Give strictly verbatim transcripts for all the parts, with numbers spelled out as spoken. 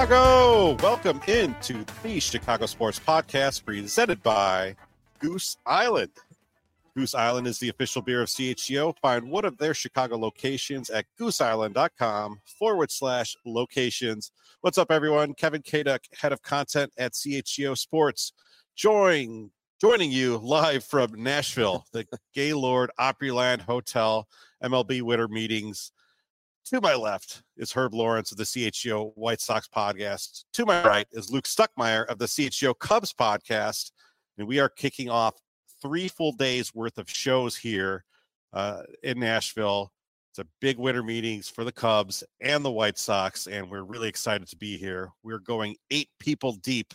Chicago! Welcome into the Chicago Sports Podcast presented by Goose Island. Goose Island is the official beer of C H G O. Find one of their Chicago locations at gooseisland.com forward slash locations. What's up, everyone? Kevin Kaduk, head of content at C H G O Sports. Join, joining you live from Nashville, the Gaylord Opryland Hotel, M L B Winter Meetings. To my left is Herb Lawrence of the C H G O White Sox podcast. To my right is Luke Stuckmeyer of the C H G O Cubs podcast. And we are kicking off three full days worth of shows here uh, in Nashville. It's a big winter meetings for the Cubs and the White Sox, and we're really excited to be here. We're going eight people deep,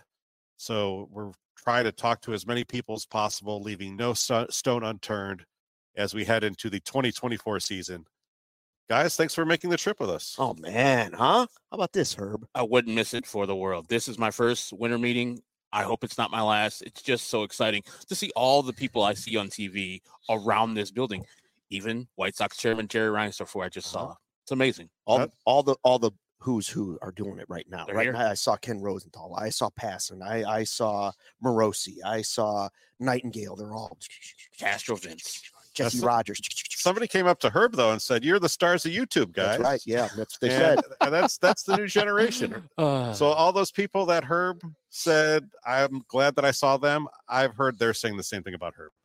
so we're trying to talk to as many people as possible, leaving no st- stone unturned as we head into the twenty twenty-four season. Guys, thanks for making the trip with us. Oh, man, huh? How about this, Herb? I wouldn't miss it for the world. This is my first winter meeting. I hope it's not my last. It's just so exciting to see all the people I see on T V around this building. Even White Sox chairman Jerry Reinsdorf, who I just saw. It's amazing. All, uh, all the all the who's who are doing it right now. They're Right here. now, I saw Ken Rosenthal. I saw Passan. I, I saw Morosi. I saw Nightingale. They're all Castro Vince. Jesse That's Rogers. Somebody came up to Herb, though, and said, "You're the stars of YouTube, guys." That's right. Yeah, that's what they and, said. and that's that's the new generation. Uh, So all those people that Herb said, I'm glad that I saw them. I've heard they're saying the same thing about Herb.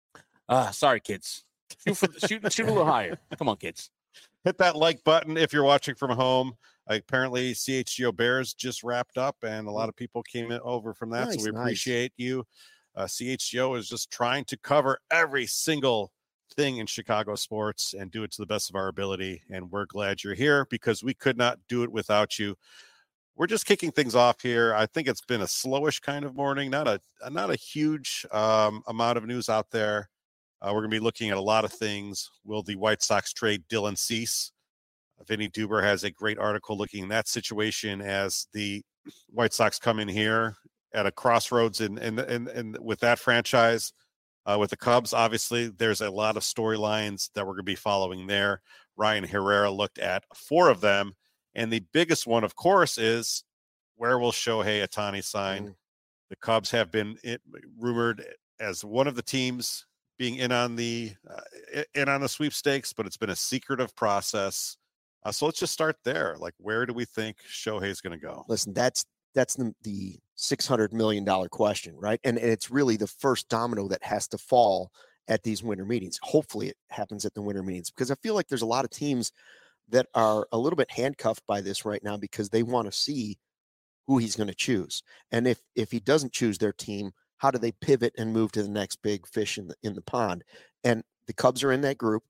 uh, sorry, kids. Shoot, for, shoot, shoot a little higher. Come on, kids. Hit that like button if you're watching from home. Apparently, C H G O Bears just wrapped up, and a lot of people came in over from that. Nice, so we nice. appreciate you. Uh, C H G O is just trying to cover every single thing in Chicago sports and do it to the best of our ability. And we're glad you're here because we could not do it without you. We're just kicking things off here. I think it's been a slowish kind of morning, not a not a huge um, amount of news out there. Uh, we're going to be looking at a lot of things. Will the White Sox trade Dylan Cease? Vinny Duber has a great article looking at that situation as the White Sox come in here at a crossroads in in in, in with that franchise. Uh, with the Cubs, obviously, there's a lot of storylines that we're going to be following there. Ryan Herrera looked at four of them. And the biggest one, of course, is where will Shohei Ohtani sign? Mm. The Cubs have been it, rumored as one of the teams being in on the uh, in on the sweepstakes, but it's been a secretive process. Uh, so let's just start there. Like, where do we think Shohei is going to go? Listen, that's that's the, the six hundred million dollars question, right? And, and it's really the first domino that has to fall at these winter meetings. Hopefully it happens at the winter meetings because I feel like there's a lot of teams that are a little bit handcuffed by this right now because they want to see who he's going to choose. And if if he doesn't choose their team, how do they pivot and move to the next big fish in the, in the pond? And the Cubs are in that group.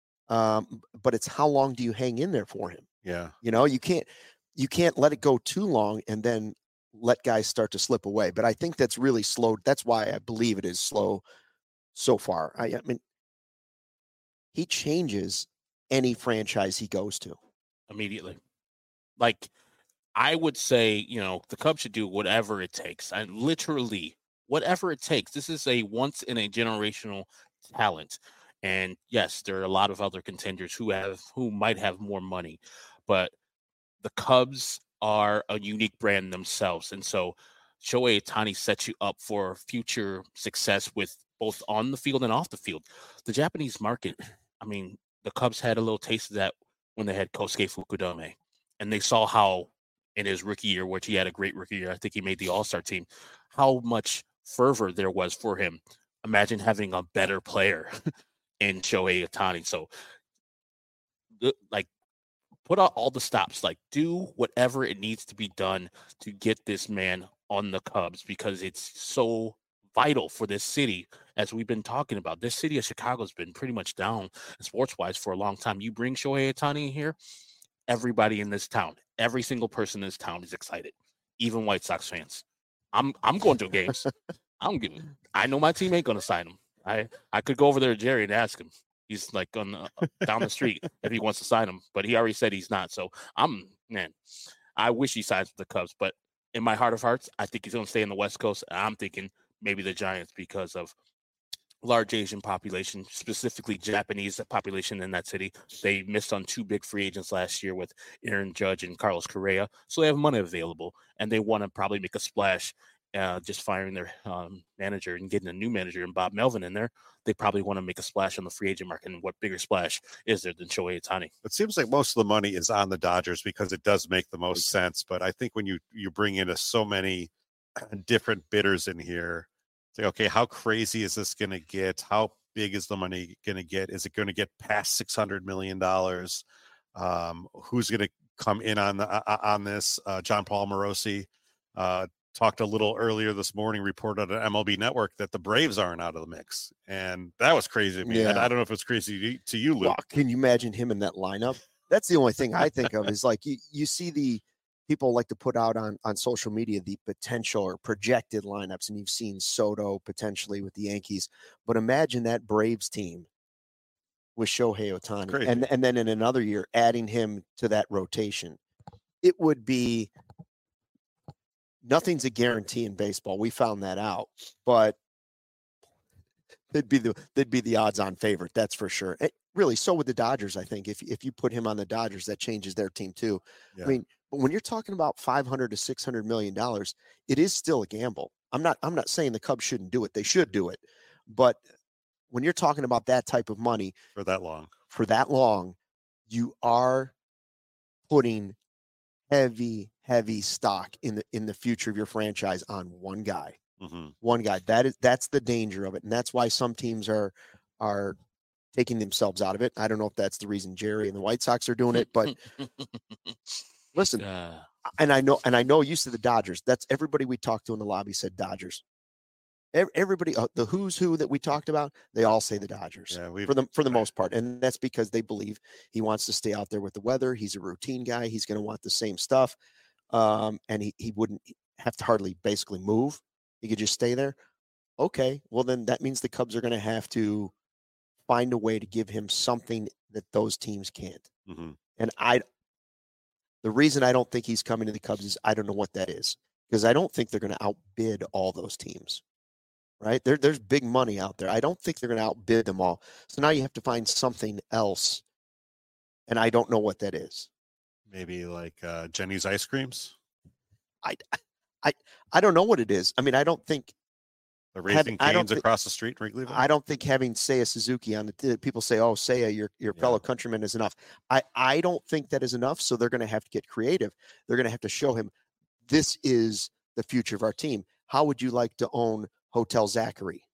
Um, but it's how long do you hang in there for him? Yeah. You know, you can't you can't let it go too long and then let guys start to slip away. But I think that's really slow. That's why I believe it is slow so far. I, I mean, he changes any franchise he goes to Immediately. Like, I would say, you know, the Cubs should do whatever it takes. And literally, whatever it takes. This is a once in a generational talent. And yes, there are a lot of other contenders who have who might have more money, but the Cubs are a unique brand themselves. And so Shohei Ohtani sets you up for future success with both on the field and off the field. The Japanese market, I mean, the Cubs had a little taste of that when they had Kosuke Fukudome. And they saw how in his rookie year, which he had a great rookie year, I think he made the All-Star team, how much fervor there was for him. Imagine having a better player in Shohei Ohtani. So, like, put out all the stops. Like, do whatever it needs to be done to get this man on the Cubs because it's so vital for this city, as we've been talking about. This city of Chicago has been pretty much down sports-wise for a long time. You bring Shohei Ohtani in here, everybody in this town, every single person in this town is excited, even White Sox fans. I'm I'm going to games. I'm giving. I know my team ain't going to sign him. I, I could go over there to Jerry and ask him. He's like on the, down the street if he wants to sign him, but he already said he's not. So I'm man, I wish he signs with the Cubs, but in my heart of hearts, I think he's going to stay in the West Coast. I'm thinking maybe the Giants because of large Asian population, specifically Japanese population in that city. They missed on two big free agents last year with Aaron Judge and Carlos Correa. So they have money available, and they want to probably make a splash. Uh, just firing their um, manager and getting a new manager and Bob Melvin in there, they probably want to make a splash on the free agent market. And what bigger splash is there than Shohei Ohtani? It seems like most of the money is on the Dodgers because it does make the most sense. But I think when you you bring in a, so many different bidders in here, say, okay, how crazy is this going to get? How big is the money going to get? Is it going to get past six hundred million dollars? Um, who's going to come in on the, uh, on this? Uh, John Paul Morosi uh, talked a little earlier this morning, reported on M L B Network that the Braves aren't out of the mix. And that was crazy to me. Yeah. I, I don't know if it's crazy to, to you, Luke. Well, can you imagine him in that lineup? That's the only thing I think of is like you, you see the people like to put out on, on social media the potential or projected lineups, and you've seen Soto potentially with the Yankees. But imagine that Braves team with Shohei Ohtani. And, and then in another year, adding him to that rotation. It would be nothing's a guarantee in baseball. We found that out, but they'd be the they'd be the odds-on favorite. That's for sure. It, really, so would the Dodgers. I think if if you put him on the Dodgers, that changes their team too. Yeah. I mean, but when you're talking about five hundred to six hundred million dollars, it is still a gamble. I'm not I'm not saying the Cubs shouldn't do it. They should do it, but when you're talking about that type of money for that long, for that long, you are putting heavy, heavy stock in the in the future of your franchise on one guy. Mm-hmm. One guy. That is that's the danger of it. And that's why some teams are are taking themselves out of it. I don't know if that's the reason Jerry and the White Sox are doing it, but listen, uh, and I know and I know you said the Dodgers. That's everybody we talked to in the lobby said Dodgers. Everybody, uh, the who's who that we talked about, they all say the Dodgers yeah, for the for the most part, and that's because they believe he wants to stay out there with the weather. He's a routine guy. He's going to want the same stuff, um, and he he wouldn't have to hardly basically move. He could just stay there. Okay, well then that means the Cubs are going to have to find a way to give him something that those teams can't. Mm-hmm. And I, the reason I don't think he's coming to the Cubs is I don't know what that is because I don't think they're going to outbid all those teams. Right there, there's big money out there. I don't think they're going to outbid them all. So now you have to find something else, and I don't know what that is. Maybe like uh, Jenny's ice creams. I, I, I don't know what it is. I mean, I don't think the Raising Cane's across the street. Wrigleyville? I don't think having Seiya Suzuki on the people say, "Oh, Seiya, your your yeah. fellow countryman is enough." I I don't think that is enough. So they're going to have to get creative. They're going to have to show him this is the future of our team. How would you like to own Hotel Zachary?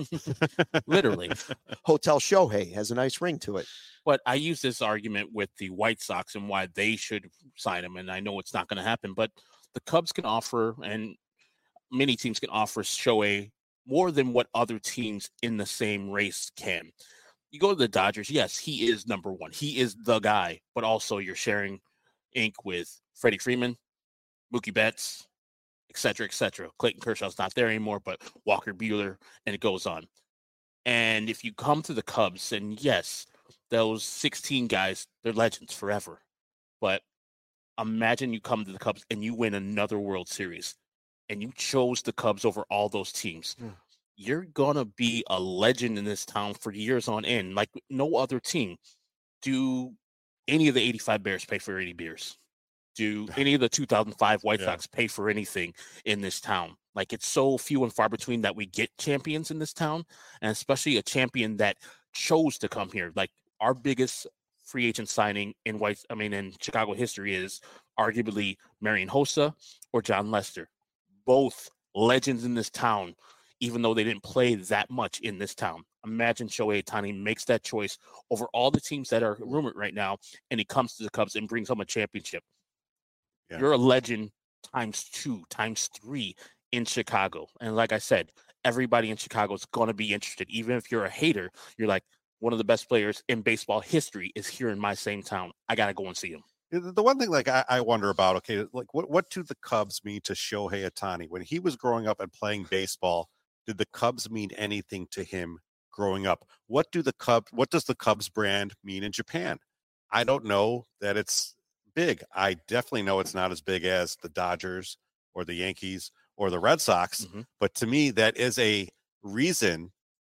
Literally. Hotel Shohei has a nice ring to it. But I use this argument with the White Sox and why they should sign him, and I know it's not going to happen, but the Cubs can offer, and many teams can offer Shohei more than what other teams in the same race can. You go to the Dodgers, yes, he is number one. He is the guy, but also you're sharing ink with Freddie Freeman, Mookie Betts, et cetera, et cetera. Clayton Kershaw's not there anymore, but Walker Buehler, and it goes on. And if you come to the Cubs, and yes, those sixteen guys, they're legends forever. But imagine you come to the Cubs and you win another World Series, and you chose the Cubs over all those teams. Yeah. You're going to be a legend in this town for years on end, like no other team. Do any of the eighty-five Bears pay for eighty beers? Do any of the two thousand five White yeah. Sox pay for anything in this town? Like, it's so few and far between that we get champions in this town, and especially a champion that chose to come here. Like, our biggest free agent signing in White, I mean, in Chicago history is arguably Marian Hossa or John Lester. Both legends in this town, even though they didn't play that much in this town. Imagine Shohei Ohtani makes that choice over all the teams that are rumored right now, and he comes to the Cubs and brings home a championship. Yeah. You're a legend times two, times three in Chicago. And like I said, everybody in Chicago is going to be interested. Even if you're a hater, you're like, one of the best players in baseball history is here in my same town. I got to go and see him. The one thing like I, I wonder about, okay, like what, what do the Cubs mean to Shohei Ohtani? When he was growing up and playing baseball, did the Cubs mean anything to him growing up? What do the Cubs, what does the Cubs brand mean in Japan? I don't know that it's big. I definitely know it's not as big as the Dodgers or the Yankees or the Red Sox. Mm-hmm. But to me, that is a reason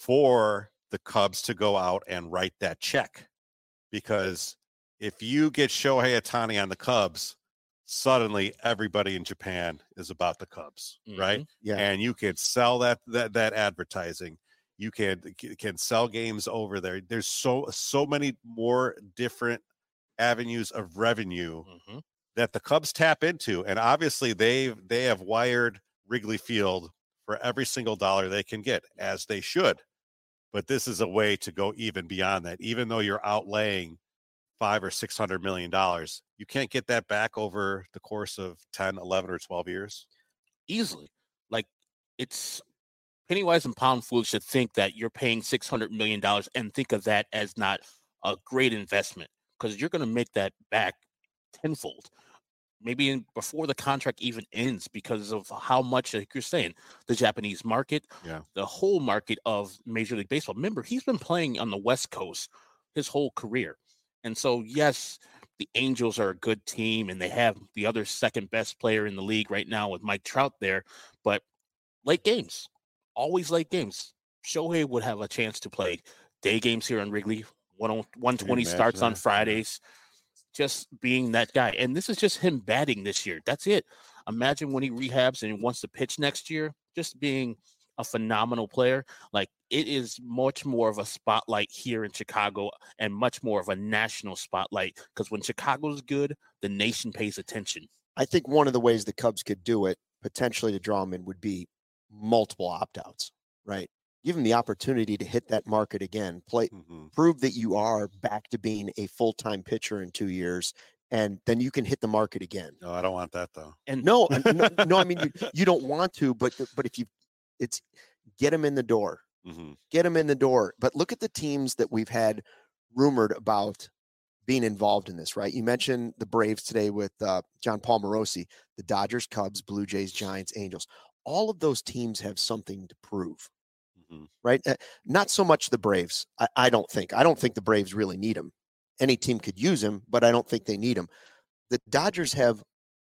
for the Cubs to go out and write that check. Because if you get Shohei Ohtani on the Cubs, suddenly everybody in Japan is about the Cubs, mm-hmm. right? Yeah. And you can sell that that that advertising. You can can sell games over there. There's so so many more different avenues of revenue mm-hmm. that the Cubs tap into, and obviously they've they have wired Wrigley Field for every single dollar they can get, as they should. But this is a way to go even beyond that. Even though you're outlaying five or six hundred million dollars, you can't get that back over the course of ten, eleven, or twelve years easily. Like, it's penny wise and pound foolish to think that you're paying six hundred million dollars and think of that as not a great investment, because you're going to make that back tenfold, maybe in, before the contract even ends, because of how much, like you're saying, the Japanese market, yeah, the whole market of Major League Baseball. Remember, he's been playing on the West Coast his whole career. And so, yes, the Angels are a good team, and they have the other second best player in the league right now with Mike Trout there. But late games, always late games. Shohei would have a chance to play day games here on Wrigley. one twenty starts that? on Fridays. Just being that guy. And this is just him batting this year. That's it. Imagine when he rehabs and wants to pitch next year, just being a phenomenal player. Like, it is much more of a spotlight here in Chicago and much more of a national spotlight, because when Chicago's good, the nation pays attention. I think one of the ways the Cubs could do it, potentially to draw him in, would be multiple opt-outs, right? Give him the opportunity to hit that market again, play, mm-hmm. prove that you are back to being a full-time pitcher in two years, and then you can hit the market again. No, I don't want that though. And no, no, no, I mean, you, you don't want to, but but if you, it's get him in the door, mm-hmm. get him in the door. But look at the teams that we've had rumored about being involved in this, right? You mentioned the Braves today with uh, John Paul Morosi, the Dodgers, Cubs, Blue Jays, Giants, Angels. All of those teams have something to prove. Right? Uh, not so much the Braves. I, I don't think. I don't think the Braves really need him. Any team could use him, but I don't think they need him. The Dodgers have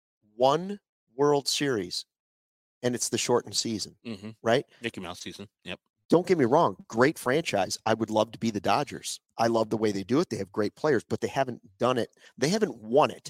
one World Series, and it's the shortened season, mm-hmm. right? Mickey Mouse season. Yep. Don't get me wrong. Great franchise. I would love to be the Dodgers. I love the way they do it. They have great players, but they haven't done it. They haven't won it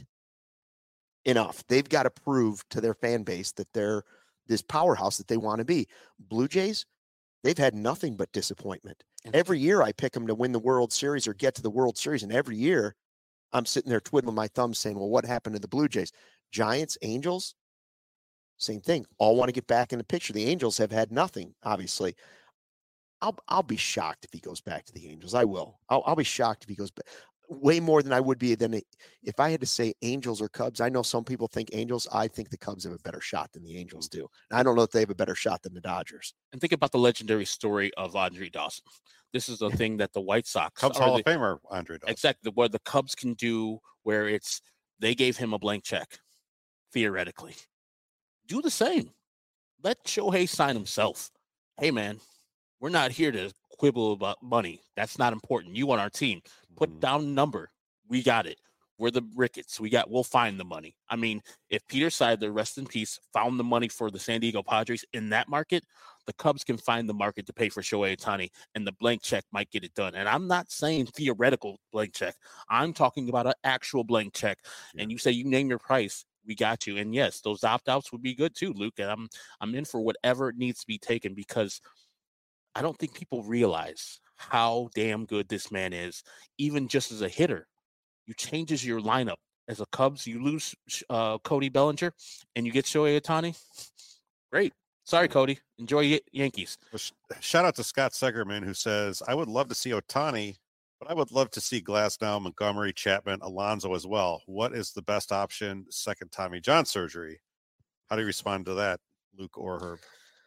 enough. They've got to prove to their fan base that they're this powerhouse that they want to be. Blue Jays, they've had nothing but disappointment. Every year I pick them to win the World Series or get to the World Series, and every year I'm sitting there twiddling my thumbs saying, well, what happened to the Blue Jays? Giants, Angels, same thing. All want to get back in the picture. The Angels have had nothing, obviously. I'll I'll be shocked if he goes back to the Angels. I will. I'll, I'll be shocked if he goes back. Way more than I would be than if I had to say Angels or Cubs. I know some people think Angels. I think the Cubs have a better shot than the Angels do. And I don't know if they have a better shot than the Dodgers. And think about the legendary story of Andre Dawson. This is the thing that the White Sox, Cubs Hall of Famer Andre Dawson, exactly, where the Cubs can do, where it's they gave him a blank check, theoretically. Do the same. Let Shohei sign himself. Hey man, we're not here to quibble about money. That's not important. You on our team. Put down a number. We got it. We're the Ricketts. We got, we'll find the money. I mean, if Peter Seidler, rest in peace, found the money for the San Diego Padres in that market, the Cubs can find the market to pay for Shohei Ohtani, and the blank check might get it done. And I'm not saying theoretical blank check. I'm talking about an actual blank check. Yeah. And you say, you name your price, we got you. And yes, those opt-outs would be good too, Luke. And I'm, I'm in for whatever needs to be taken, because I don't think people realize how damn good this man is, even just as a hitter. You changes your lineup. As a Cubs, you lose uh, Cody Bellinger, and you get Shohei Ohtani. Great. Sorry, Cody. Enjoy y- Yankees. Shout out to Scott Segerman, who says, I would love to see Ohtani, but I would love to see Glasnow, Montgomery, Chapman, Alonso as well. What is the best option? Second Tommy John surgery. How do you respond to that, Luke or Herb?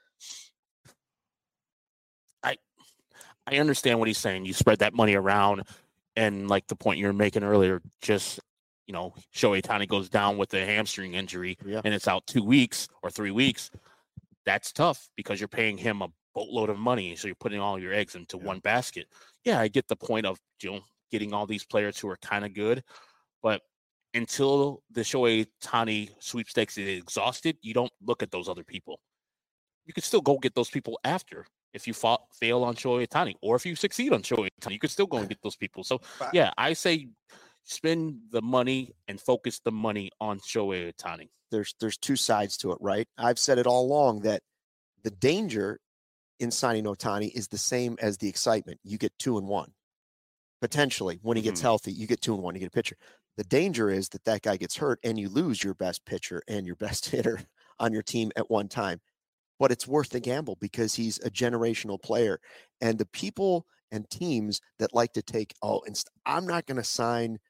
I understand what he's saying. You spread that money around, and like the point you were making earlier, just, you know, Shohei Ohtani goes down with a hamstring injury, yeah. and it's out two weeks or three weeks. That's tough, because you're paying him a boatload of money, so you're putting all your eggs into yeah. one basket. Yeah, I get the point of, you know, getting all these players who are kind of good, but until the Shohei Ohtani sweepstakes is exhausted, you don't look at those other people. You can still go get those people after. if you fa- fail on Shohei Ohtani, or if you succeed on Shohei Ohtani, you could still go and get those people. So, yeah, I say spend the money and focus the money on Shohei Ohtani. There's there's two sides to it, right? I've said it all along that the danger in signing Ohtani is the same as the excitement. You get two and one. Potentially, when he gets Mhm. healthy, you get two and one, you get a pitcher. The danger is that that guy gets hurt and you lose your best pitcher and your best hitter on your team at one time. But it's worth the gamble because he's a generational player. And the people and teams that like to take, oh, inst- I'm not going to sign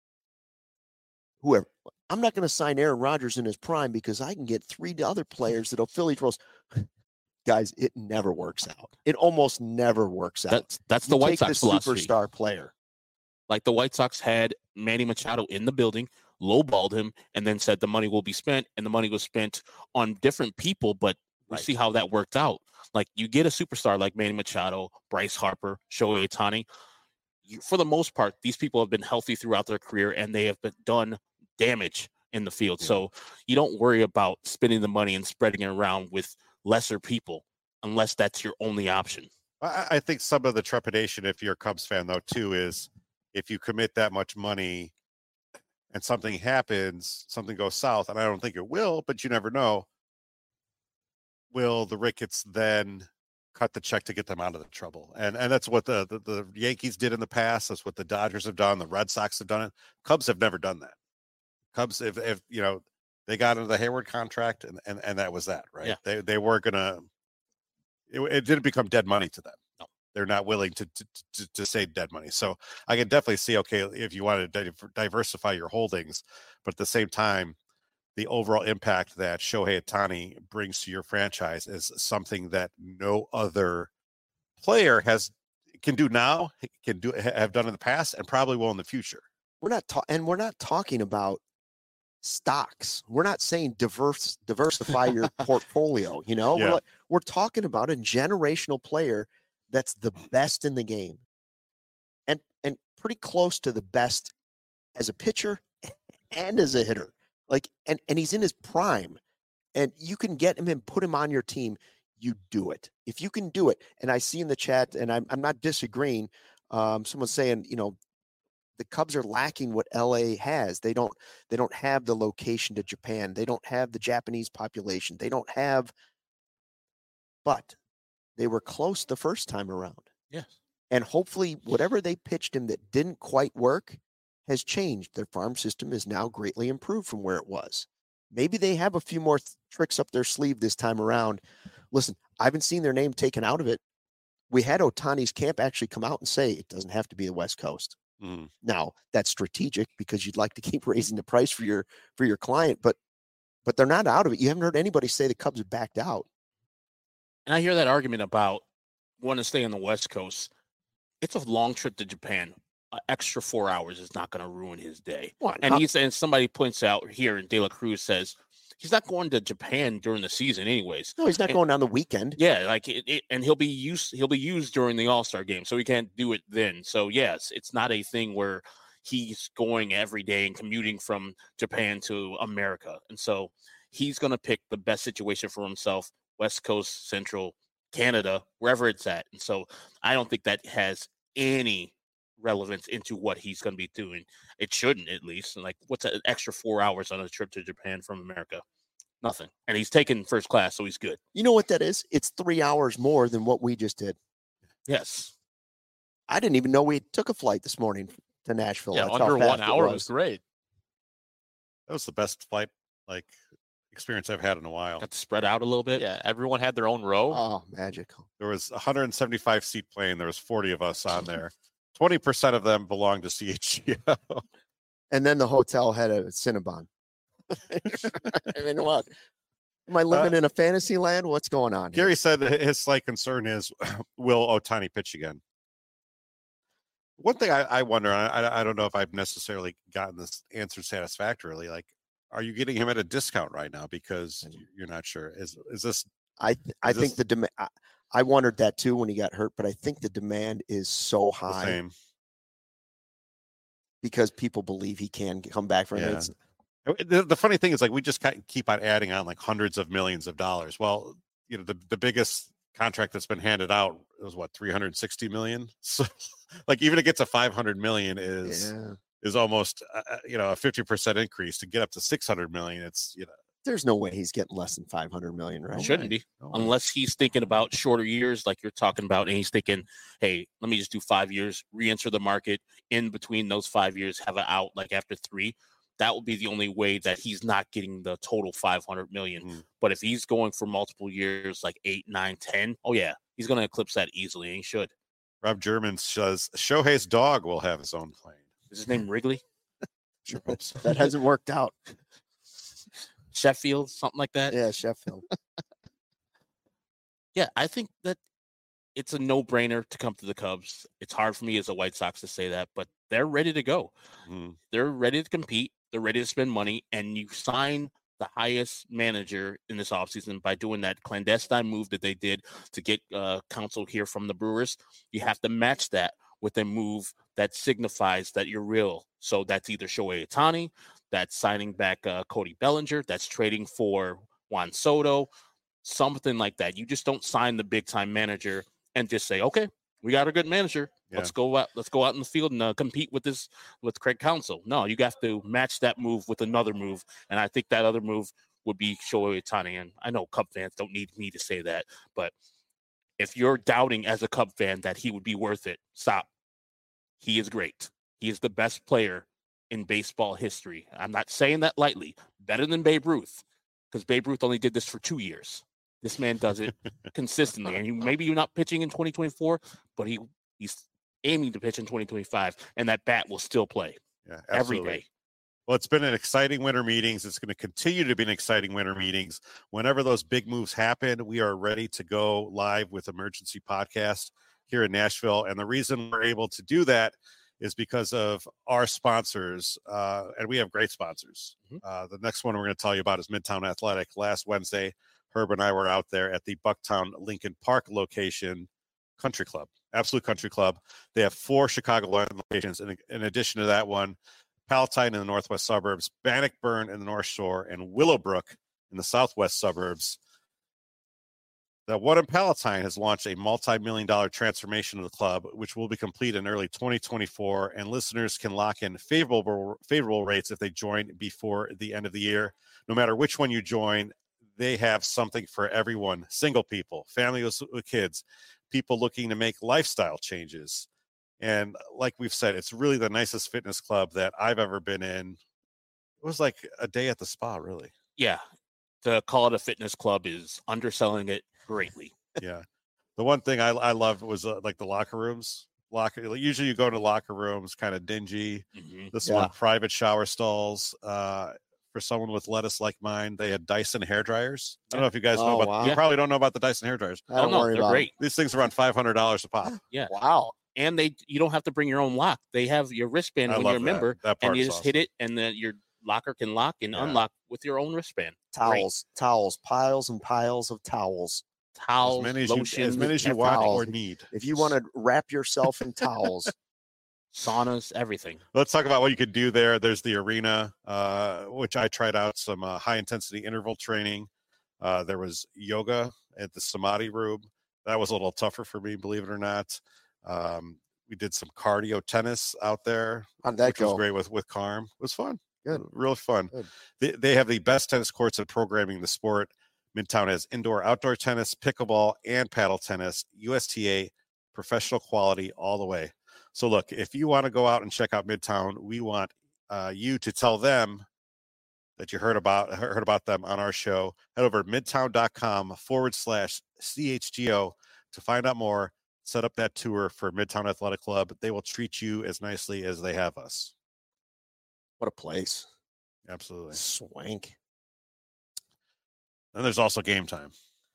whoever. I'm not going to sign Aaron Rodgers in his prime because I can get three other players that'll fill each roles. Guys, it never works out. It almost never works out. That's that's the You White take Sox the philosophy. superstar player. Like the White Sox had Manny Machado in the building, lowballed him, and then said the money will be spent, and the money was spent on different people, but we Right. see how that worked out. Like you get a superstar like Manny Machado, Bryce Harper, Shohei Ohtani. You, for the most part, these people have been healthy throughout their career, and they have been done damage in the field. Yeah. So you don't worry about spending the money and spreading it around with lesser people unless that's your only option. I, I think some of the trepidation, if you're a Cubs fan, though, too, is if you commit that much money and something happens, something goes south, and I don't think it will, but you never know. Will the Ricketts then cut the check to get them out of the trouble? And and that's what the, the the Yankees did in the past. That's what the Dodgers have done. The Red Sox have done it. Cubs have never done that. Cubs, if, if you know, they got into the Hayward contract, and and, and that was that, right? Yeah. They they weren't gonna. It, it didn't become dead money to them. No. They're not willing to, to to to say dead money. So I can definitely see, okay, if you want to di- diversify your holdings, but at the same time, the overall impact that Shohei Ohtani brings to your franchise is something that no other player has can do now, can do have done in the past, and probably will in the future. We're not ta- and we're not talking about stocks. We're not saying diverse diversify your portfolio, you know? Yeah. We're, like, we're talking about a generational player that's the best in the game. And and pretty close to the best as a pitcher and as a hitter. Like and and he's in his prime. And you can get him and put him on your team, you do it. If you can do it, and I see in the chat, and I'm I'm not disagreeing, um, someone's saying, you know, the Cubs are lacking what L A has. They don't they don't have the location to Japan. They don't have the Japanese population. They don't have, but they were close the first time around. Yes. And hopefully whatever they pitched him that didn't quite work has changed. Their farm system is now greatly improved from where it was. Maybe they have a few more th- tricks up their sleeve this time around. Listen, I haven't seen their name taken out of it. We had Ohtani's camp actually come out and say it doesn't have to be the West Coast. Mm. Now that's strategic because you'd like to keep raising the price for your for your client, but but they're not out of it. You haven't heard anybody say the Cubs have backed out. And I hear that argument about wanting to stay on the West Coast. It's a long trip to Japan. An extra four hours is not going to ruin his day. What? And How- he's and somebody points out here, and De La Cruz says he's not going to Japan during the season, anyways. No, he's not and- going on the weekend. Yeah, like it, it, and he'll be used. He'll be used during the All Star game, so he can't do it then. So yes, it's not a thing where he's going every day and commuting from Japan to America, and so he's going to pick the best situation for himself: West Coast, Central, Canada, wherever it's at. And so I don't think that has any relevance into what he's going to be doing. It shouldn't, at least. Like, what's an extra four hours on a trip to Japan from America? Nothing. And he's taking first class, so he's good. You know what that is? It's three hours more than what we just did. Yes. I didn't even know we took a flight this morning to Nashville. Yeah, That's how under one fast it hour was great. That was the best flight like experience I've had in a while. Got to spread out a little bit. Yeah, everyone had their own row. Oh, magical. There was a one hundred seventy-five seat plane. There was forty of us on there. twenty percent of them belonged to C H G O. And then the hotel had a Cinnabon. I mean, what? Am I living Uh, in a fantasy land? What's going on here? Gary said that his slight concern is, will Ohtani pitch again? One thing I, I wonder, and I, I don't know if I've necessarily gotten this answer satisfactorily. Like, are you getting him at a discount right now because you're not sure? Is is this I th- I Is think this- the demand. I, I wondered that too when he got hurt, but I think the demand is so the high same? because people believe he can come back from it. Yeah. It's- The, the funny thing is, like, we just ki- keep on adding on like hundreds of millions of dollars. Well, you know, the, the biggest contract that's been handed out was what three hundred sixty million. So, like, even to get to five hundred million is Yeah. is almost uh, you know a fifty percent increase. To get up to six hundred million, it's you know There's no way he's getting less than five hundred million, right? Shouldn't be, no way. unless he's thinking about shorter years, like you're talking about, and he's thinking, "Hey, let me just do five years, re-enter the market. In between those five years, have an out like after three." That would be the only way that he's not getting the total five hundred million. Mm. But if he's going for multiple years, like eight, nine, ten, oh yeah, he's going to eclipse that easily, and he should. Rob German says Shohei's dog will have his own plane. Is his name Wrigley? Sure hope so. That hasn't worked out. Sheffield, something like that. Yeah, Sheffield. Yeah, I think that it's a no-brainer to come to the Cubs. It's hard for me as a White Sox to say that, but they're ready to go. Mm. They're ready to compete. They're ready to spend money, and you sign the highest manager in this offseason by doing that clandestine move that they did to get uh, counsel here from the Brewers. You have to match that with a move that signifies that you're real. So that's either Shohei Ohtani, that's signing back uh, Cody Bellinger, that's trading for Juan Soto, something like that. You just don't sign the big-time manager and just say, okay, we got a good manager. Yeah. Let's go out. Let's go out in the field and uh, compete with this with Craig Counsell. No, you have to match that move with another move, and I think that other move would be Shohei Ohtani. And I know Cub fans don't need me to say that, but if you're doubting as a Cub fan that he would be worth it, stop. He is great. He is the best player in baseball history. I'm not saying that lightly. Better than Babe Ruth, because Babe Ruth only did this for two years. This man does it consistently, and he, maybe you're not pitching in twenty twenty-four, but he he's aiming to pitch in twenty twenty-five, and that bat will still play Yeah, every absolutely. day. Well, it's been an exciting winter meetings. It's going to continue to be an exciting winter meetings. Whenever those big moves happen, we are ready to go live with Emergency Podcast here in Nashville. And the reason we're able to do that is because of our sponsors, uh, and we have great sponsors. Mm-hmm. Uh, the next one we're going to tell you about is Midtown Athletic. Last Wednesday, Herb and I were out there at the Bucktown Lincoln Park location, Country Club, Absolute Country Club. They have four Chicago locations. In, in addition to that one, Palatine in the northwest suburbs, Bannockburn in the North Shore, and Willowbrook in the southwest suburbs. The one in Palatine has launched a multi-million dollar transformation of the club, which will be complete in early twenty twenty-four, and listeners can lock in favorable favorable rates if they join before the end of the year. No matter which one you join, they have something for everyone: single people, families with kids, people looking to make lifestyle changes. And like we've said, it's really the nicest fitness club that I've ever been in. It was like a day at the spa, really. Yeah, to call it a fitness club is underselling it greatly. Yeah. The one thing I, I loved was uh, like the locker rooms. Locker Usually you go to locker rooms, kind of dingy. Mm-hmm. This Yeah. one, private shower stalls. Uh, for someone with lettuce like mine, they had Dyson hair dryers. I don't know if you guys know Oh, about. wow. You Yeah. probably don't know about the Dyson hair dryers. I Oh don't no, worry they're about great. These things are around five hundred dollars a pop. Yeah, it. Wow. and they you don't have to bring your own lock. They have your wristband I when love you're a that. member, That part and you is just awesome. hit it, and then your locker can lock and Yeah. unlock with your own wristband. Towels, towels, piles and piles of towels. Towels, As many as lotion, you, as many as you everything. want or need. If you want to wrap yourself in towels, saunas, everything. Let's talk about what you could do there. There's the arena, uh, which I tried out some uh, high intensity interval training. Uh, there was yoga at the Samadhi room. That was a little tougher for me, believe it or not. Um, we did some cardio tennis out there, how'd that which was go? great with, with Carm. It was fun. Good. Real fun. Good. They, they have the best tennis courts and programming in the sport. Midtown has indoor, outdoor tennis, pickleball, and paddle tennis. U S T A, professional quality all the way. So look, if you want to go out and check out Midtown, we want uh, you to tell them that you heard about heard about them on our show. Head over to midtown.com forward slash CHGO to find out more. Set up that tour for Midtown Athletic Club. They will treat you as nicely as they have us. What a place. Absolutely. Swank. And there's also game time.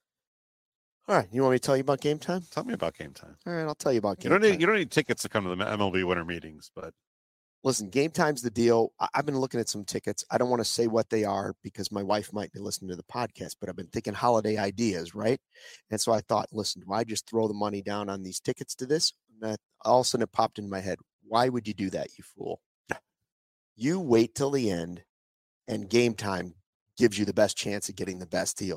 All right. You want me to tell you about game time? Tell me about game time. All right. I'll tell you about You game don't time. need you don't need tickets to come to the M L B winter meetings, but Listen, game time's the deal. I- I've been looking at some tickets. I don't want to say what they are because my wife might be listening to the podcast, but I've been thinking holiday ideas, right? And so I thought, listen, do I just throw the money down on these tickets to this? And that, all of a sudden it popped in my head. Why would you do that, you fool? You wait till the end and game time gives you the best chance of getting the best deal.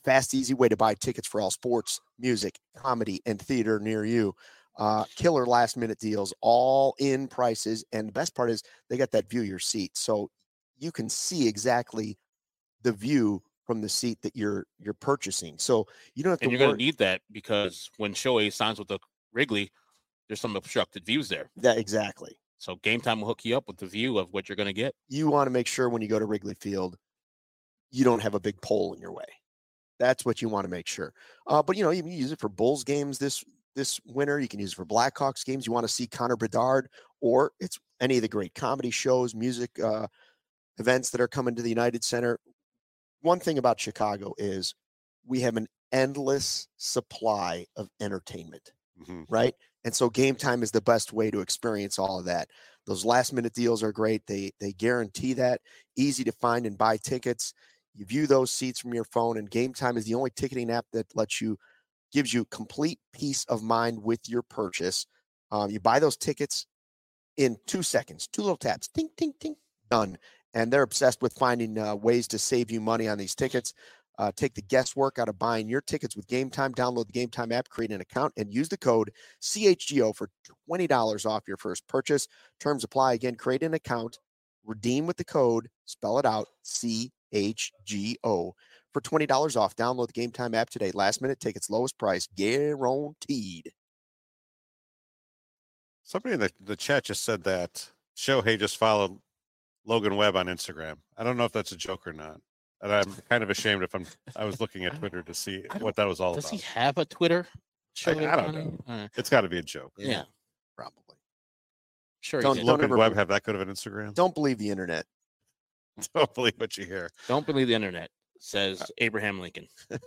fast, easy way to buy tickets for all sports, music, comedy, and theater near you. Uh, killer last minute deals, all in prices. And the best part is they got that view your seat. So you can see exactly the view from the seat that you're you're purchasing. So you don't have to And you're worry. going to need that because when Shohei signs with the Wrigley, there's some obstructed views there. That exactly. So Game Time will hook you up with the view of what you're going to get. You want to make sure when you go to Wrigley Field, you don't have a big pole in your way. That's what you want to make sure. Uh, but, you know, you can use it for Bulls games this this winter. You can use it for Blackhawks games. You want to see Connor Bedard, or it's any of the great comedy shows, music uh, events that are coming to the United Center. One thing about Chicago is we have an endless supply of entertainment, mm-hmm. right? And so Game Time is the best way to experience all of that. Those last minute deals are great. They they guarantee that. Easy to find and buy tickets. You view those seats from your phone, and Game Time is the only ticketing app that lets you, gives you complete peace of mind with your purchase. Um, you buy those tickets in two seconds, two little taps, ting, ting, ting, done. And they're obsessed with finding uh, ways to save you money on these tickets. Uh, take the guesswork out of buying your tickets with Game Time. Download the Game Time app, create an account, and use the code C H G O for twenty dollars off your first purchase. Terms apply. Again, create an account, redeem with the code, spell it out, C H G O for twenty dollars off. Download the Game Time app today. Last minute tickets, lowest price, guaranteed. Somebody in the, the chat just said that Shohei just followed Logan Webb on Instagram. I don't know if that's a joke or not. And I'm kind of ashamed if I'm I was looking at Twitter to see what that was all Does about. Does he have a Twitter? I, I don't know. Uh, it's got to be a joke. Yeah, yeah. Probably. Sure. Don't, don't Logan Webb have that good of an Instagram? Don't believe the internet. Don't believe what you hear. Don't believe the internet, says Abraham Lincoln.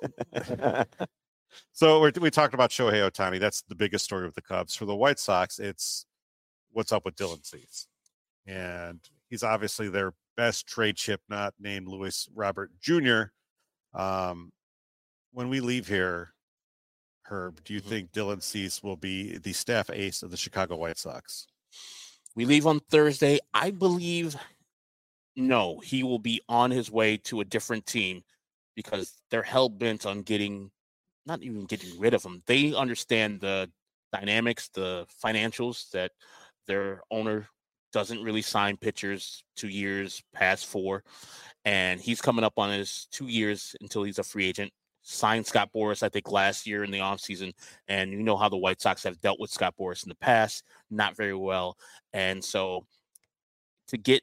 So we're, we talked about Shohei Ohtani. That's the biggest story with the Cubs. For the White Sox, it's what's up with Dylan Cease. And he's obviously their best trade chip, not named Luis Robert Junior Um, when we leave here, Herb, do you mm-hmm. think Dylan Cease will be the staff ace of the Chicago White Sox? We leave on Thursday. I believe no, he will be on his way to a different team because they're hell-bent on getting, not even getting rid of him. They understand the dynamics, the financials, that their owner doesn't really sign pitchers two years past four. And he's coming up on his two years until he's a free agent. Signed Scott Boras, I think, last year in the offseason. And you know how the White Sox have dealt with Scott Boras in the past, not very well. And so to get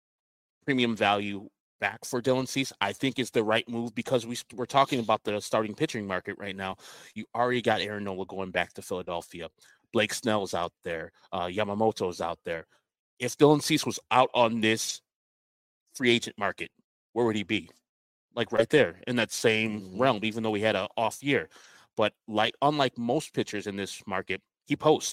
premium value back for Dylan Cease, I think is the right move because we, we're talking about the starting pitching market right now. You already got Aaron Nola going back to Philadelphia. Blake Snell's out there. Uh, Yamamoto's out there. If Dylan Cease was out on this free agent market, where would he be? Like right there in that same mm-hmm. realm, even though he had an off year. But like unlike most pitchers in this market, he posts.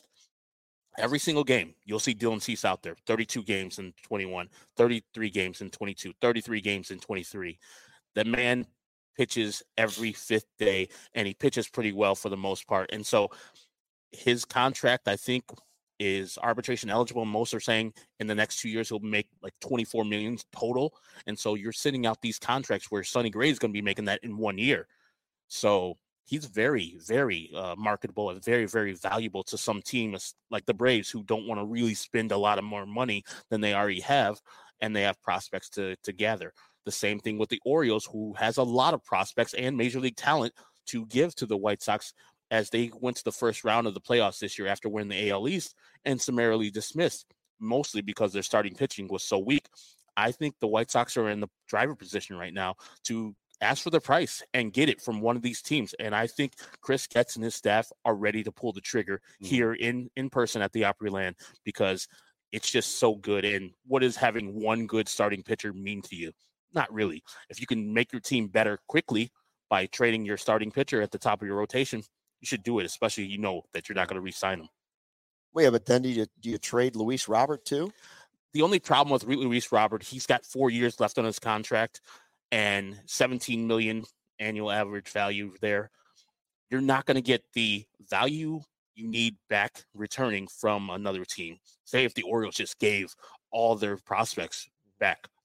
Every single game, you'll see Dylan Cease out there, thirty-two games in twenty-one, thirty-three games in twenty-two, thirty-three games in twenty-three. The man pitches every fifth day, and he pitches pretty well for the most part. And so his contract, I think, is arbitration eligible. Most are saying in the next two years, he'll make like twenty-four million dollars total. And so you're sending out these contracts where Sonny Gray is going to be making that in one year. So he's very, very uh, marketable and very, very valuable to some teams like the Braves who don't want to really spend a lot of more money than they already have, and they have prospects to, to gather. The same thing with the Orioles, who has a lot of prospects and major league talent to give to the White Sox as they went to the first round of the playoffs this year after winning the A L East and summarily dismissed, mostly because their starting pitching was so weak. I think the White Sox are in the driver position right now to ask for the price and get it from one of these teams. And I think Chris Getz and his staff are ready to pull the trigger mm. here in, in person at the Opryland because it's just so good. And what does having one good starting pitcher mean to you? Not really. If you can make your team better quickly by trading your starting pitcher at the top of your rotation, you should do it, especially you know that you're not going to re-sign him. Well, yeah, but then do you, do you trade Luis Robert too? The only problem with Luis Robert, he's got four years left on his contract and seventeen million annual average value there. You're not going to get the value you need back returning from another team. Say if the Orioles just gave all their prospects back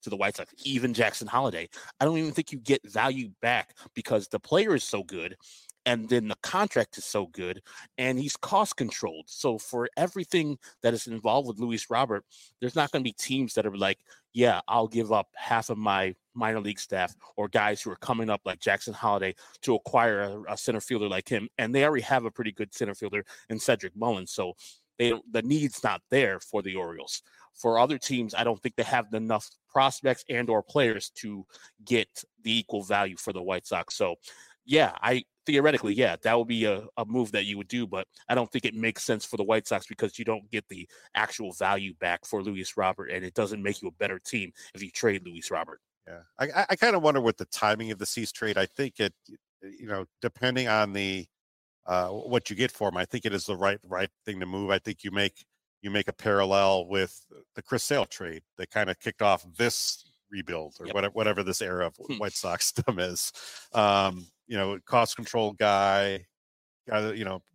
to the White Sox, even Jackson Holiday. I don't even think you get value back because the player is so good. And then the contract is so good, and he's cost controlled. So for everything that is involved with Luis Robert, there's not going to be teams that are like, yeah, I'll give up half of my minor league staff or guys who are coming up like Jackson Holiday to acquire a, a center fielder like him. And they already have a pretty good center fielder in Cedric Mullins. So they the need's not there for the Orioles. For other teams, I don't think they have enough prospects and or players to get the equal value for the White Sox. So yeah, I theoretically, yeah, that would be a, a move that you would do, but I don't think it makes sense for the White Sox because you don't get the actual value back for Luis Robert, and it doesn't make you a better team if you trade Luis Robert. Yeah, I, I kind of wonder what the timing of the Cease trade. I think it, you know, depending on the uh, what you get for him, I think it is the right right thing to move. I think you make you make a parallel with the Chris Sale trade that kind of kicked off this rebuild or yep. whatever whatever this era of White Sox stem is. Um, you know, cost control guy, guy, you know,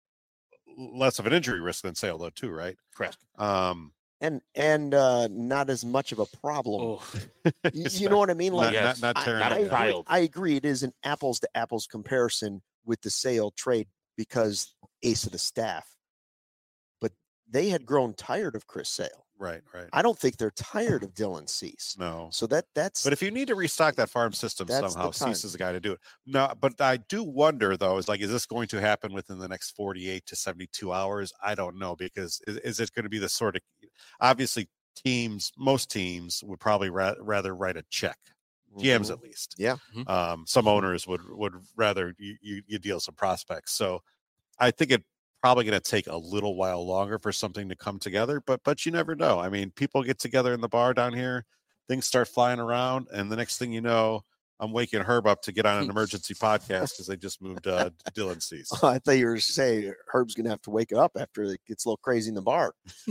less of an injury risk than Sale though too, right? Correct. Um, and and uh, not as much of a problem. Oh. you, you know what I mean? Like, not, yes. not, not I, not I, a agree, I agree. It is an apples to apples comparison with the Sale trade because ace of the staff, but they had grown tired of Chris Sale. Right, right. I don't think they're tired of Dylan Cease. No. So that that's. But if you need to restock that farm system somehow, Cease is the guy to do it. No, but I do wonder though, is like, is this going to happen within the next forty-eight to seventy-two hours? I don't know, because is, is it going to be the sort of, obviously teams, most teams would probably ra- rather write a check. G Ms at least. Yeah. Um, some owners would would rather you, you you deal some prospects. So I think it. Probably going to take a little while longer for something to come together, but but you never know. I mean, people get together in the bar down here, things start flying around, and the next thing you know, I'm waking Herb up to get on an emergency podcast because they just moved uh, Dylan Cease. Oh, I thought you were saying Herb's going to have to wake up after it gets a little crazy in the bar.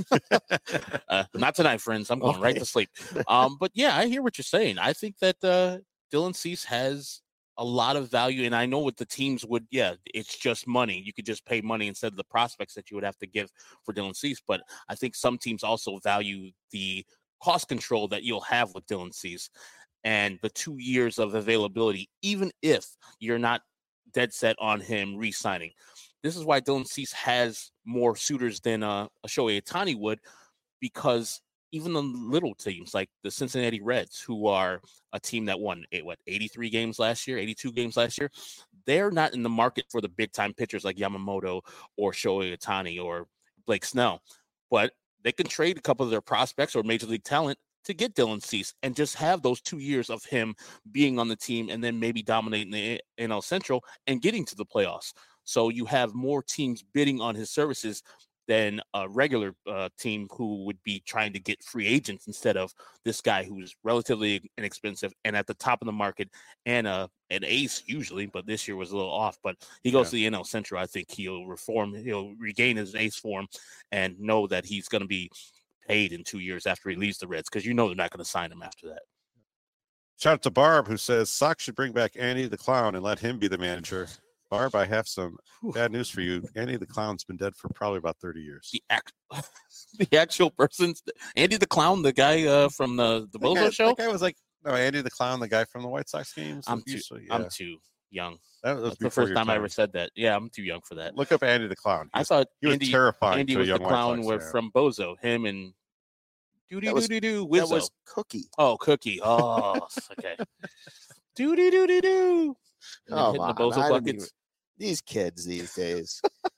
uh, not tonight, friends. I'm going okay. right to sleep. Um, but yeah, I hear what you're saying. I think that uh, Dylan Cease has a lot of value, and I know what the teams would, yeah, it's just money. You could just pay money instead of the prospects that you would have to give for Dylan Cease, but I think some teams also value the cost control that you'll have with Dylan Cease and the two years of availability, even if you're not dead set on him re-signing. This is why Dylan Cease has more suitors than uh, a Shohei Ohtani would, because even the little teams like the Cincinnati Reds, who are a team that won eight, what eighty-three games last year, eighty-two games last year, they're not in the market for the big time pitchers like Yamamoto or Shohei Ohtani or Blake Snell, but they can trade a couple of their prospects or major league talent to get Dylan Cease and just have those two years of him being on the team and then maybe dominating the N L Central and getting to the playoffs. So you have more teams bidding on his services than a regular uh, team who would be trying to get free agents instead of this guy who's relatively inexpensive and at the top of the market and uh, an ace usually, but this year was a little off. But he goes yeah. to the N L Central. I think he'll reform, he'll regain his ace form and know that he's going to be paid in two years after he leaves the Reds, because you know they're not going to sign him after that. Shout out to Barb, who says Sox should bring back Andy the Clown and let him be the manager. Barb, I have some bad news for you. Andy the Clown's been dead for probably about thirty years. The act, the actual person, Andy the Clown, the guy uh, from the the Bozo guy, show. That guy was like, no, Andy the Clown, the guy from the White Sox games. I'm too, usually, yeah. I'm too young. That was That's the first time, time I ever said that. Yeah, I'm too young for that. Look up Andy the Clown. He I was, thought he was Andy, terrifying. Andy to was a young the clown White with, from Bozo. Him and doo doo doo doo doo. That was Cookie. Oh, Cookie. Oh, okay. Doo doo doo doo doo. Oh, hitting the Bozo buckets. These kids these days.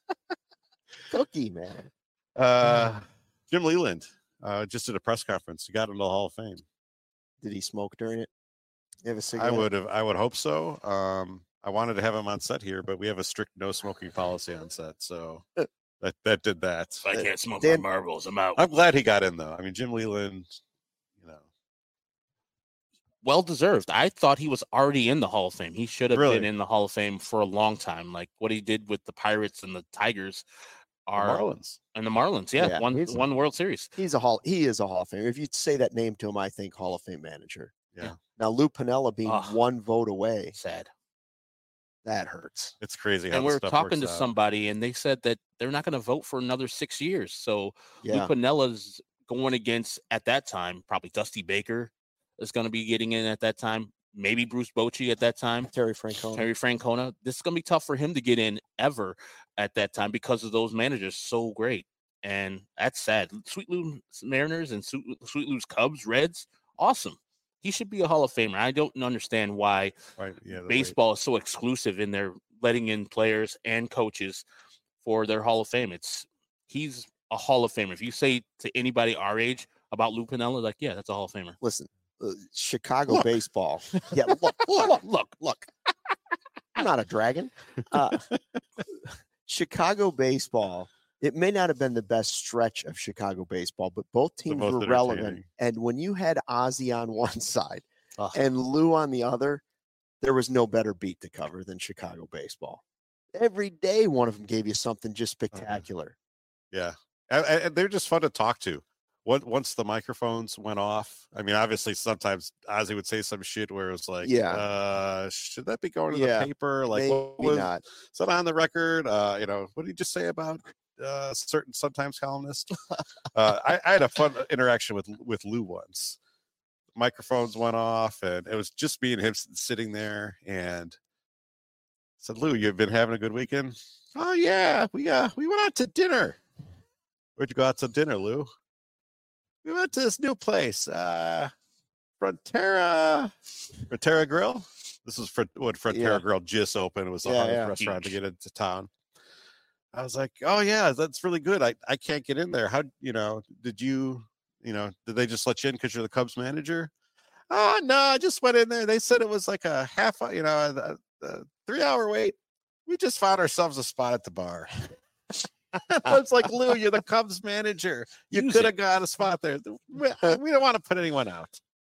Cookie, man. Uh, Jim Leland uh, just did a press conference. He got into the Hall of Fame. Did he smoke during it? You have a cigarette? I would have. I would hope so. Um, I wanted to have him on set here, but we have a strict no smoking policy on set, so that that did that. I can't smoke Dan, my marbles. I'm out. I'm glad he got in though. I mean, Jim Leland, you know. Well deserved. I thought he was already in the Hall of Fame. He should have really? been in the Hall of Fame for a long time. Like what he did with the Pirates and the Tigers are the Marlins. And the Marlins, yeah, yeah one one a, World Series. He's a hall. He is a Hall of Fame. If you say that name to him, I think Hall of Fame manager. Yeah. yeah. Now Lou Piniella being oh, one vote away. Sad. That hurts. It's crazy. How and we're talking to out. somebody, and they said that they're not going to vote for another six years. So yeah. Lou Piniella's going against, at that time, probably Dusty Baker, is going to be getting in at that time. Maybe Bruce Bochy at that time. Terry Francona. Terry Francona. This is going to be tough for him to get in ever at that time because of those managers so great. And that's sad. Sweet Lou's Mariners and Sweet Lou's Cubs, Reds, awesome. He should be a Hall of Famer. I don't understand why right. yeah, baseball is so exclusive in their letting in players and coaches for their Hall of Fame. It's he's a Hall of Famer. If you say to anybody our age about Lou Piniella, like, yeah, that's a Hall of Famer. Listen, uh, Chicago look. baseball. Yeah, look, look, look, look. I'm not a dragon. Uh, Chicago baseball. It may not have been the best stretch of Chicago baseball, but both teams both were relevant. And when you had Ozzie on one side Ugh. and Lou on the other, there was no better beat to cover than Chicago baseball. Every day, one of them gave you something just spectacular. Yeah, and, and they're just fun to talk to. Once the microphones went off, I mean, obviously, sometimes Ozzie would say some shit where it was like, yeah, uh, should that be going to yeah, the paper? Like, maybe what was, not. Is that on the record? Uh, you know, what did you just say about uh, certain sometimes columnist? uh, I, I had a fun interaction with with Lou once. Microphones went off, and it was just me and him sitting there, and I said, "Lou, you've been having a good weekend?" "Oh yeah, we uh we went out to dinner." "Where'd you go out to dinner, Lou?" "We went to this new place, uh, Frontera, Frontera Grill." This was for when Frontera Yeah. Grill just opened. It was a Yeah, hard yeah. restaurant Huge. to get into town. I was like, "Oh yeah, that's really good. I, I can't get in there. How, you know, did you, you know, did they just let you in because you're the Cubs manager?" "Oh no, I just went in there. They said it was like a half, you know, a, a three hour wait. We just found ourselves a spot at the bar." I was like, "Lou, you're the Cubs manager. You Use could it. have got a spot there. We, we don't want to put anyone out."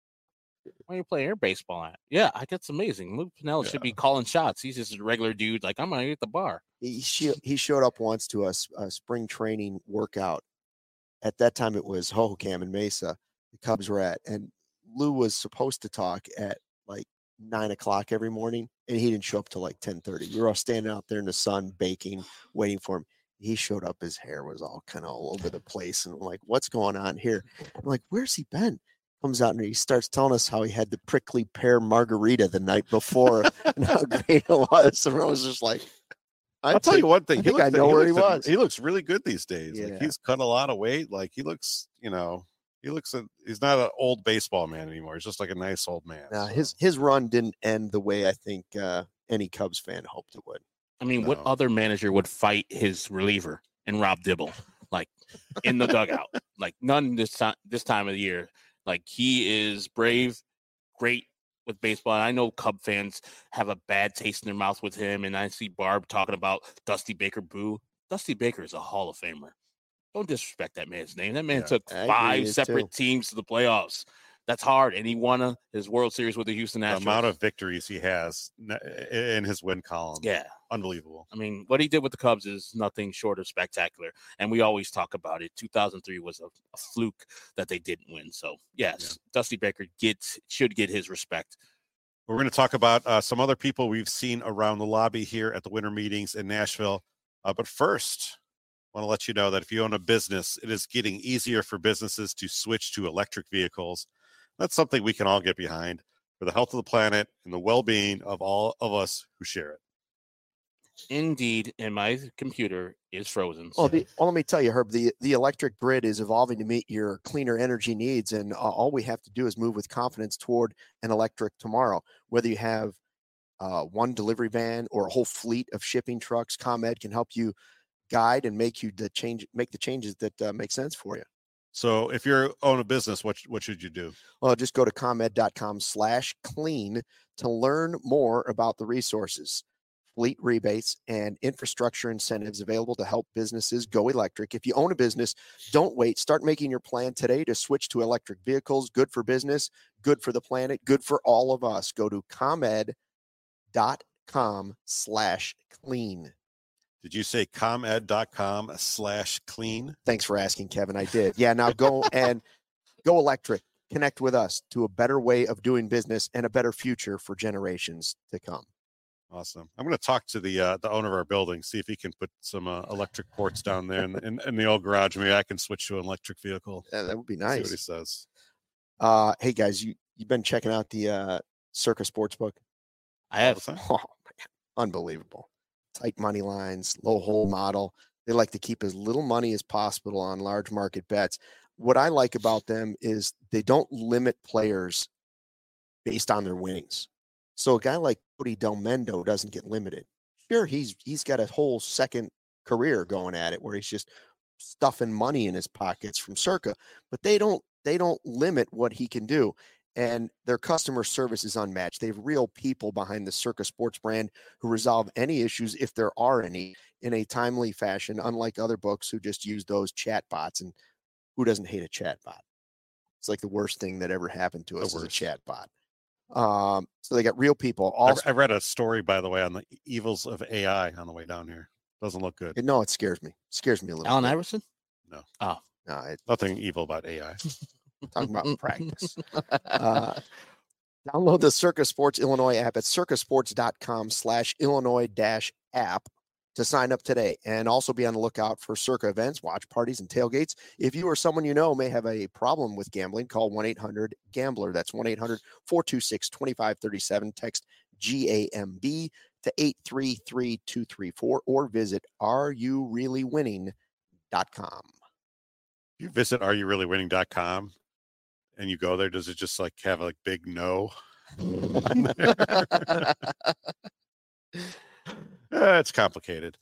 Why you play air baseball at? Yeah, I that's amazing. Lou Piniella should be calling shots. He's just a regular dude. Like, I'm gonna get the bar. He, she, he showed up once to us a spring training workout. At that time, it was Hohokam and Mesa. The Cubs were at, and Lou was supposed to talk at like nine o'clock every morning, and he didn't show up till like ten thirty. We were all standing out there in the sun, baking, waiting for him. He showed up. His hair was all kind of all over the place, and I'm like, "What's going on here?" I'm like, "Where's he been?" Comes out and he starts telling us how he had the prickly pear margarita the night before and how great it was. And I was just like, I'll tell you one thing. I think looks, I know where he looks, was. He looks really good these days. Yeah. Like, he's cut a lot of weight. Like, he looks, you know, he looks. A, he's not an old baseball man anymore. He's just like a nice old man. Now, so. his his run didn't end the way I think uh, any Cubs fan hoped it would. I mean, No. what other manager would fight his reliever and Rob Dibble, like in the dugout? Like, none this time. This time of the year, like, he is brave, great with baseball. And I know Cub fans have a bad taste in their mouth with him. And I see Barb talking about Dusty Baker. Boo! Dusty Baker is a Hall of Famer. Don't disrespect that man's name. That man Yeah. took I agree, five he is separate too. teams to the playoffs. That's hard, and he won a, his World Series with the Houston The Astros. amount of victories he has in his win column. yeah. Unbelievable. I mean, what he did with the Cubs is nothing short of spectacular, and we always talk about it. two thousand three was a, a fluke that they didn't win. So, yes, Yeah. Dusty Baker gets should get his respect. We're going to talk about uh, some other people we've seen around the lobby here at the winter meetings in Nashville. Uh, but first, I want to let you know that if you own a business, it is getting easier for businesses to switch to electric vehicles. That's something we can all get behind for the health of the planet and the well-being of all of us who share it. Indeed, and my computer is frozen. Well, so- the, well, let me tell you, Herb, the, the electric grid is evolving to meet your cleaner energy needs. And uh, all we have to do is move with confidence toward an electric tomorrow. Whether you have uh, one delivery van or a whole fleet of shipping trucks, ComEd can help you guide and make you the change, make the changes that uh, make sense for you. So if you own a business, what, what should you do? Well, just go to ComEd.com slash clean to learn more about the resources, fleet rebates, and infrastructure incentives available to help businesses go electric. If you own a business, don't wait. Start making your plan today to switch to electric vehicles. Good for business, good for the planet, good for all of us. Go to ComEd.com slash clean. Did you say ComEd.com slash clean? Thanks for asking, Kevin. I did. Yeah, now go and go electric. Connect with us to a better way of doing business and a better future for generations to come. Awesome. I'm going to talk to the uh, the owner of our building, see if he can put some uh, electric ports down there in, in, in the old garage. Maybe I can switch to an electric vehicle. Yeah, that would be See what he nice. says. Uh, hey guys, you You've been checking out the uh, Circa Sportsbook? I have. All the time. Oh, man. Unbelievable. Tight money lines, low hold model. They like to keep as little money as possible on large market bets. What I like about them is they don't limit players based on their winnings. So a guy like Cody Delmendo doesn't get limited. Sure, he's he's got a whole second career going at it where he's just stuffing money in his pockets from Circa, but they don't they don't limit what he can do. And their customer service is unmatched. They have real people behind the Circa Sports brand who resolve any issues, if there are any, in a timely fashion, unlike other books who just use those chat bots. And who doesn't hate a chat bot? It's like the worst thing that ever happened to us is a chat bot. Um, so they got real people. Also, I, I read a story, by the way, on the evils of A I on the way down here. Doesn't look good. No, it scares me. It scares me a little Allen bit. Iverson? No. Oh. No, it, Nothing evil about A I. talking about practice. Uh, download the Circa Sports Illinois app at circasports.com slash Illinois dash app to sign up today, and also be on the lookout for Circa events, watch parties, and tailgates. If you or someone you know may have a problem with gambling, call one eight hundred gambler. That's one eight hundred four two six two five three seven. Text G A M B to eight three three two three four or visit are you really winning dot com. If you visit are you really winning dot com and you go there, does it just like have like big no? Uh, it's complicated.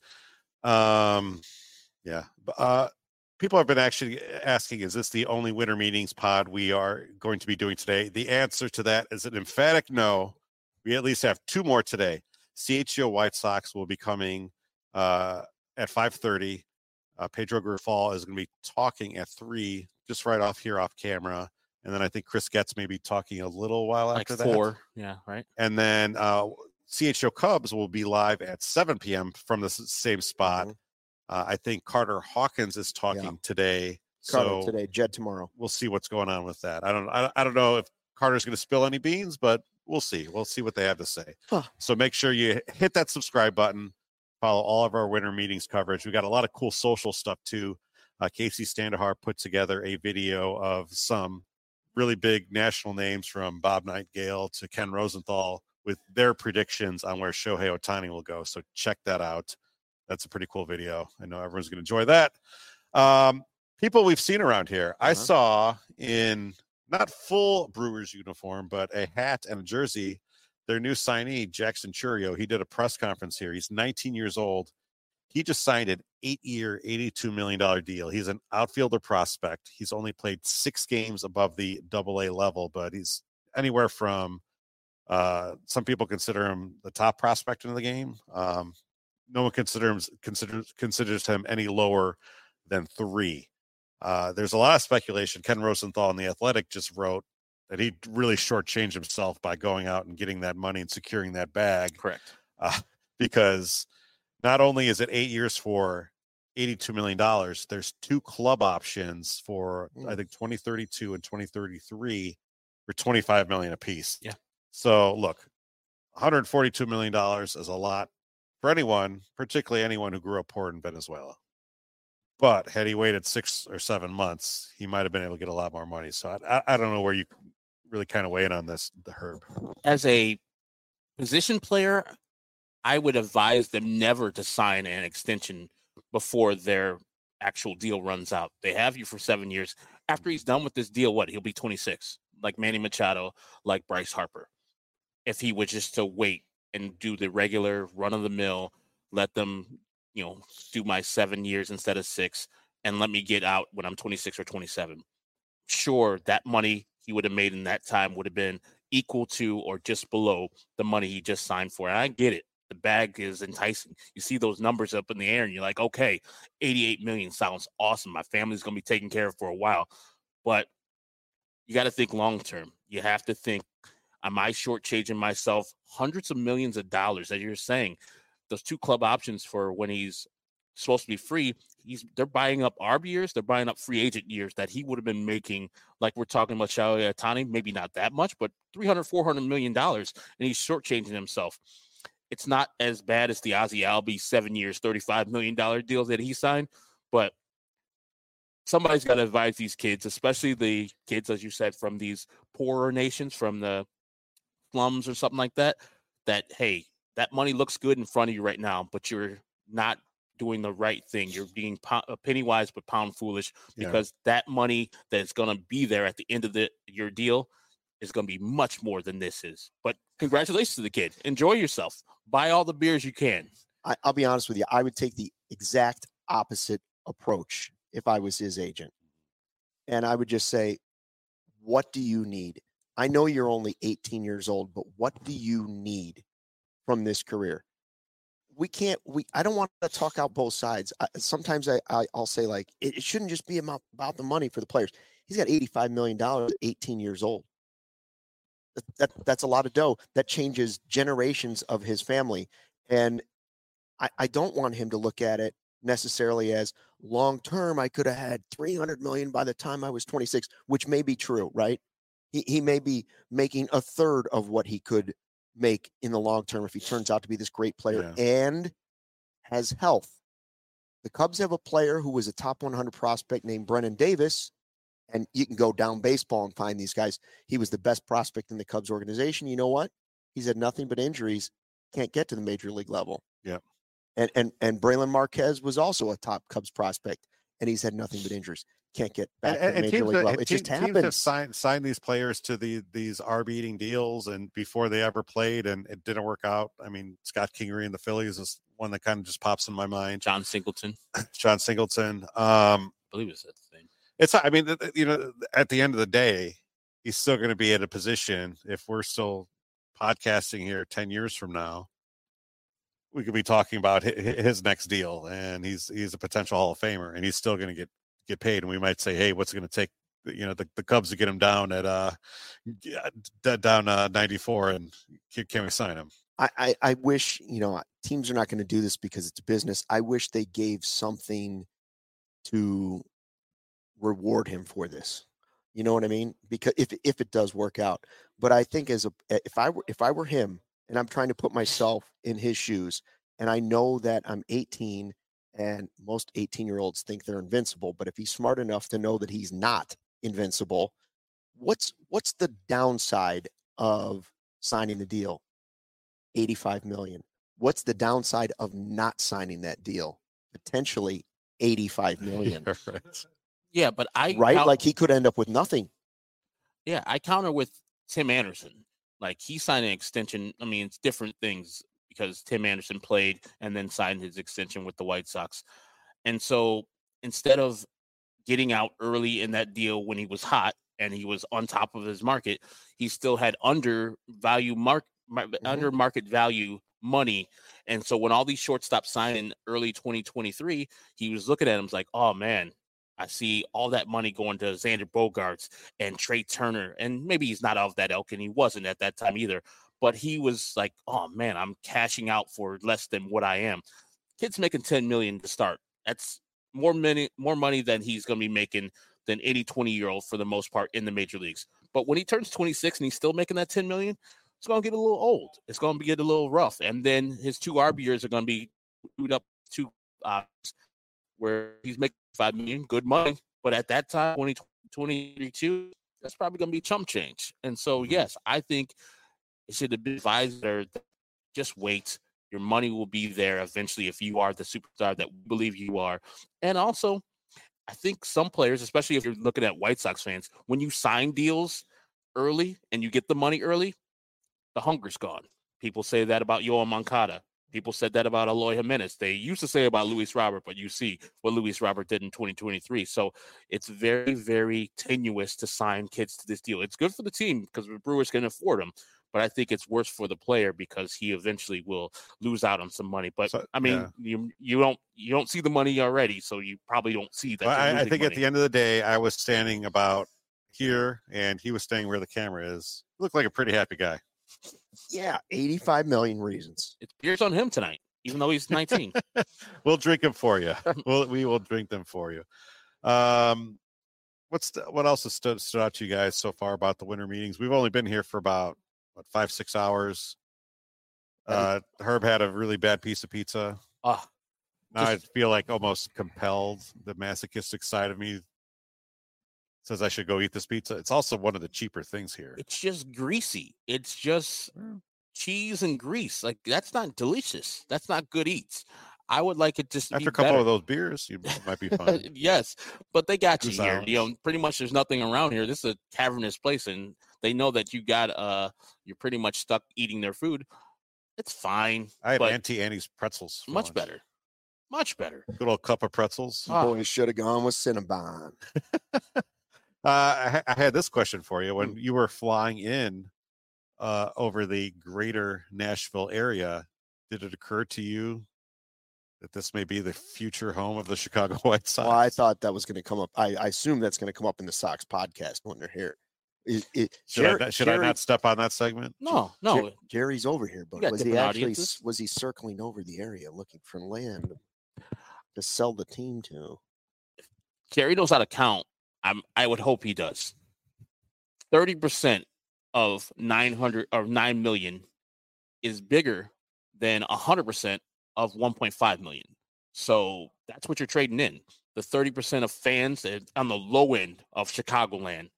Um, yeah. Uh, people have been actually asking, is this the only winter meetings pod we are going to be doing today? The answer to that is an emphatic no. We at least have two more today. C H G O White Sox will be coming uh, at five thirty. Uh, Pedro Grifal is going to be talking at three, just right off here off camera. And then I think Chris Getz may be talking a little while Like after four. that. Yeah, right. And then uh, C H G O Cubs will be live at seven p.m. from the s- same spot. Mhm. Uh, I think Carter Hawkins is talking Yeah. today. Carter So today, Jed tomorrow. we'll see what's going on with that. I don't I, I don't know if Carter's going to spill any beans, but we'll see. We'll see what they have to say. Huh. So make sure you hit that subscribe button. Follow all of our winter meetings coverage. We got a lot of cool social stuff too. Uh, Casey Standahar put together a video of some really big national names from Bob Nightingale to Ken Rosenthal with their predictions on where Shohei Ohtani will go. So check that out. That's a pretty cool video. I know everyone's going to enjoy that. Um, people we've seen around here. Uh-huh. I saw in not full Brewers uniform, but a hat and a jersey, their new signee, Jackson Chourio. He did a press conference here. He's nineteen years old. He just signed an eight-year, eighty-two million dollars deal. He's an outfielder prospect. He's only played six games above the double A level, but he's anywhere from uh, some people consider him the top prospect in the game. Um, no one considers considers considers him any lower than three. Uh, there's a lot of speculation. Ken Rosenthal in The Athletic just wrote that he really shortchanged himself by going out and getting that money and securing that bag. Correct. Uh, because not only is it eight years for eighty-two million dollars, there's two club options for, mm. I think, twenty thirty-two and twenty thirty-three for twenty-five million dollars apiece. Yeah. So, look, one hundred forty-two million dollars is a lot for anyone, particularly anyone who grew up poor in Venezuela. But had he waited six or seven months, he might have been able to get a lot more money. So I, I don't know where you really kind of weigh in on this, the Herb. As a position player, I would advise them never to sign an extension before their actual deal runs out. They have you for seven years. After he's done with this deal, what? He'll be twenty-six, like Manny Machado, like Bryce Harper. If he was just to wait and do the regular run-of-the-mill, let them, you know, do my seven years instead of six, and let me get out when I'm twenty-six or twenty-seven. Sure, that money he would have made in that time would have been equal to or just below the money he just signed for. And I get it. The bag is enticing. You see those numbers up in the air and you're like, okay, eighty-eight million sounds awesome. My family's going to be taken care of for a while. But you got to think long-term. You have to think, am I shortchanging myself hundreds of millions of dollars? As you're saying, those two club options for when he's supposed to be free, he's they're buying up arb years, they're buying up free agent years that he would have been making, like we're talking about Shohei Ohtani, maybe not that much, but three hundred, four hundred million dollars, and he's shortchanging himself. It's not as bad as the Ozzie Albies seven years, thirty-five million dollars deal that he signed, but somebody's got to advise these kids, especially the kids, as you said, from these poorer nations, from the slums or something like that, that, hey, that money looks good in front of you right now, but you're not doing the right thing. You're being po- penny wise but pound foolish, because yeah. that money that's going to be there at the end of the your deal is going to be much more than this is. But congratulations to the kid. Enjoy yourself. Buy all the beers you can. I, I'll be honest with you. I would take the exact opposite approach if I was his agent. And I would just say, what do you need? I know you're only eighteen years old, but what do you need from this career? We can't, we, I don't want to talk out both sides. I, sometimes I, I, I'll say, like, it, it shouldn't just be about, about the money for the players. He's got eighty-five million dollars at eighteen years old. That, that, that's a lot of dough. That changes generations of his family. And I, I don't want him to look at it necessarily as long-term. I could have had three hundred million dollars by the time I was twenty-six, which may be true, right? He, he may be making a third of what he could make in the long term if he turns out to be this great player yeah. and has health. The Cubs have a player who was a top one hundred prospect named Brennan Davis, and you can go down baseball and find these guys. He was the best prospect in the Cubs organization. You know what? He's had nothing but injuries, can't get to the major league level. Yeah. And and and Braylon Marquez was also a top Cubs prospect, and he's had nothing but injuries. Can't get back and, to the major league that, level. It team, just happens. Teams have signed, signed these players to the these arb-eating deals, and before they ever played, and it didn't work out. I mean, Scott Kingery and the Phillies is one that kind of just pops in my mind. John Singleton. John Singleton. Um, I believe it's that thing. It's, I mean, you know, at the end of the day, he's still going to be at a position. If we're still podcasting here ten years from now, we could be talking about his next deal, and he's he's a potential Hall of Famer, and he's still going to get get paid. And we might say, hey, what's it going to take, you know, the, the Cubs to get him down at uh down uh, ninety-four, and can, can we sign him? I, I I wish, you know, teams are not going to do this because it's a business. I wish they gave something to reward him for this. You know what I mean? Because if if it does work out, but I think as a if I were if I were him, and I'm trying to put myself in his shoes, and I know that I'm eighteen, and most eighteen-year-olds think they're invincible, but if he's smart enough to know that he's not invincible, what's what's the downside of signing the deal? eighty-five million dollars. What's the downside of not signing that deal? Potentially eighty-five million dollars. Yeah, but I right count- like he could end up with nothing. Yeah, I counter with Tim Anderson. Like, he signed an extension. I mean, it's different things because Tim Anderson played and then signed his extension with the White Sox. And so instead of getting out early in that deal when he was hot and he was on top of his market, he still had under value mark, mm-hmm. under market value money. And so when all these shortstops signed in early twenty twenty-three, he was looking at him like, oh man, I see all that money going to Xander Bogaerts and Trey Turner. And maybe he's not of that ilk, and he wasn't at that time either. But he was like, oh, man, I'm cashing out for less than what I am. Kid's making ten million dollars to start. That's more money, more money than he's going to be making than any twenty-year-old for the most part in the major leagues. But when he turns twenty-six and he's still making that ten million dollars, it's going to get a little old. It's going to get a little rough. And then his two arb years are going to be screwed up to uh, where he's making five million dollars, good money. But at that time, twenty twenty-two, that's probably going to be chump change. And so, yes, I think it should have been advised there, just wait. Your money will be there eventually if you are the superstar that we believe you are. And also, I think some players, especially if you're looking at White Sox fans, when you sign deals early and you get the money early, the hunger's gone. People say that about Yoel Moncada. People said that about Eloy Jimenez. They used to say about Luis Robert, but you see what Luis Robert did in twenty twenty-three. So it's very, very tenuous to sign kids to this deal. It's good for the team because the Brewers can afford them, but I think it's worse for the player because he eventually will lose out on some money. But so, I mean, yeah. you you don't you don't see the money already, so you probably don't see that. Well, I, I think money. At the end of the day, I was standing about here, and he was standing where the camera is. He looked like a pretty happy guy. Yeah, eighty-five million reasons. It's beers on him tonight, even though he's nineteen. We'll drink them for you. We'll, we will drink them for you. Um, what's the, what else has stood, stood out to you guys so far about the winter meetings? We've only been here for about what five, six hours. Uh, Herb had a really bad piece of pizza. Uh, now just, I feel like almost compelled. The masochistic side of me says I should go eat this pizza. It's also one of the cheaper things here. It's just greasy. It's just cheese and grease. Like, that's not delicious. That's not good eats. I would like it just to After be a couple better. of those beers, you might be fine. Yes, but they got you Goose here. Island. You know, pretty much there's nothing around here. This is a cavernous place, and they know that you got uh you're pretty much stuck eating their food. It's fine. I had but Auntie Annie's pretzels. for much lunch. better. Much better. Good old cup of pretzels. You Ah. boys should have gone with Cinnabon. Uh, I, ha- I had this question for you. Hmm. When you were flying in uh, over the greater Nashville area, did it occur to you that this may be the future home of the Chicago White Sox? Well, I thought that was going to come up. I, I assume that's going to come up in the Sox podcast when they're here. It, it, should, Jer- I, not- should Jerry, I not step on that segment? No, Jer- no. Jerry's over here, but got was he different actually audiences. was he circling over the area looking for land to sell the team to? Jerry knows how to count. I'm I would hope he does. thirty percent of nine hundred or nine million is bigger than one hundred percent of one point five million. So that's what you're trading in. The thirty percent of fans that- on the low end of Chicagoland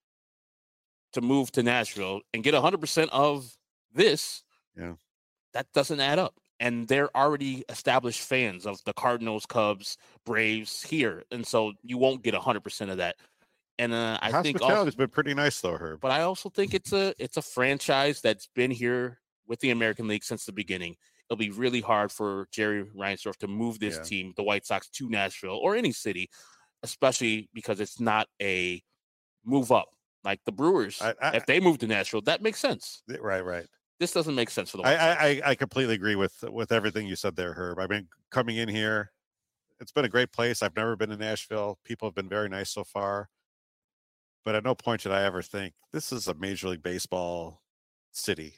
to move to Nashville and get one hundred percent of this. Yeah. That doesn't add up. And they're already established fans of the Cardinals, Cubs, Braves here. And so you won't get one hundred percent of that. And uh, I think also, Hospitality's been pretty nice, though, Herb. but I also think it's a it's a franchise that's been here with the American League since the beginning. It'll be really hard for Jerry Reinsdorf to move this Yeah. team, the White Sox, to Nashville or any city, especially because it's not a move up like the Brewers. I- I- if they move to Nashville, that makes sense. Right, right. This doesn't make sense for the I, White Sox. I, I- I completely agree with with everything you said there, Herb. I mean, coming in here, it's been a great place. I've never been to Nashville. People have been very nice so far. But at no point did I ever think this is a Major League Baseball city.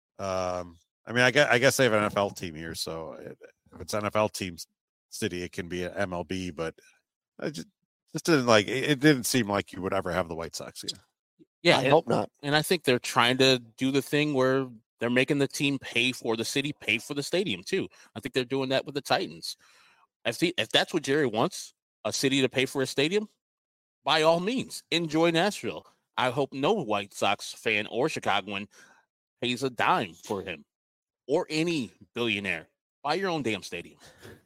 Um, I mean, I guess, I guess they have an N F L team here, so it, if it's N F L team city, it can be an M L B. But I just, just didn't like it. It didn't seem like you would ever have the White Sox here. yeah, I and- hope not. And I think they're trying to do the thing where they're making the team pay for the city, pay for the stadium too. I think they're doing that with the Titans. If the, if that's what Jerry wants, a city to pay for a stadium, by all means, enjoy Nashville. I hope no White Sox fan or Chicagoan pays a dime for him or any billionaire. Buy your own damn stadium.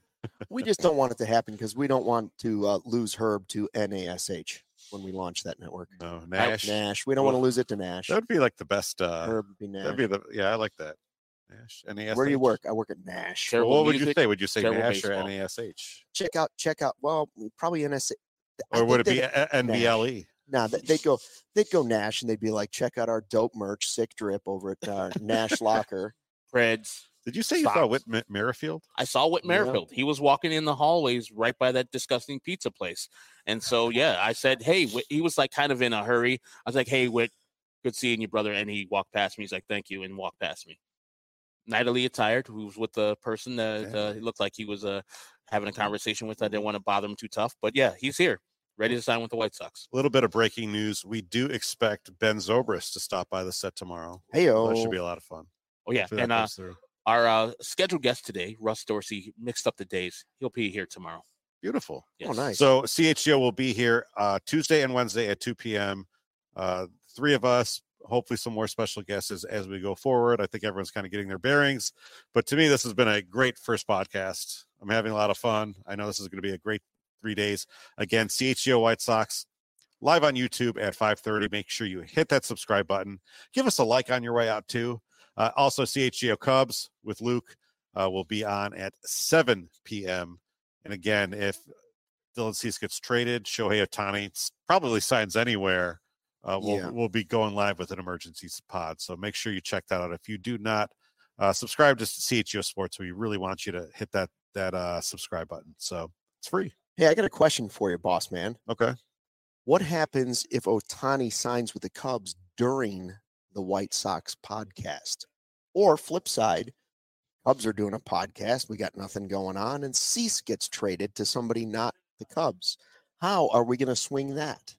We just don't want it to happen because we don't want to uh, lose Herb to N A S H when we launch that network. No, Nash. Nash. We don't want to lose it to Nash. That would be like the best. Uh, Herb would be Nash. that'd be the yeah. I like that. Nash. N A S H. Where do you work? I work at Nash. Terrible Well, what would you music, say? Would you say terrible Nash or baseball. N A S H? Check out, check out. Well, probably N S H. I Or would it think be they'd- a- N B L E? No, they- they'd go, they'd go Nash, and they'd be like, check out our dope merch, Sick Drip, over at uh, Nash Locker. Preds. Did you say you Stop. saw Whit M- Merrifield? I saw Whit Yeah. Merrifield. He was walking in the hallways right by that disgusting pizza place. And so, yeah, I said, hey, Whit. He was like kind of in a hurry. I was like, hey, Whit, good seeing you, brother. And he walked past me. He's like, thank you, and walked past me. Natalie attired, who was with the person that Yeah. uh, he looked like he was uh, having a conversation with. I didn't want to bother him too tough. But yeah, he's here, ready to sign with the White Sox. A little bit of breaking news. We do expect Ben Zobrist to stop by the set tomorrow. Hey, That oh, should be a lot of fun. Oh, yeah. Hopefully that And uh, comes through. our uh, scheduled guest today, Russ Dorsey, mixed up the days. He'll be here tomorrow. Beautiful. Yes. oh, nice. So C H G O will be here uh, Tuesday and Wednesday at two p.m. Uh, three of us, hopefully some more special guests as, as we go forward. I think everyone's kind of getting their bearings. But to me, this has been a great first podcast. I'm having a lot of fun. I know this is going to be a great three days. Again, C H G O White Sox live on YouTube at five thirty. Make sure you hit that subscribe button. Give us a like on your way out, too. Uh, also, C H G O Cubs with Luke uh, will be on at seven p.m. And again, if Dylan Cease gets traded, Shohei Ohtani probably signs anywhere. Uh, we'll Yeah. we'll be going live with an emergency pod. So make sure you check that out. If you do not uh, subscribe to C H G O Sports, we really want you to hit that that uh, subscribe button. So it's free. Hey, I got a question for you, boss man. Okay. What happens if Otani signs with the Cubs during the White Sox podcast? Or flip side, Cubs are doing a podcast. We got nothing going on, and Cease gets traded to somebody not the Cubs. How are we going to swing that?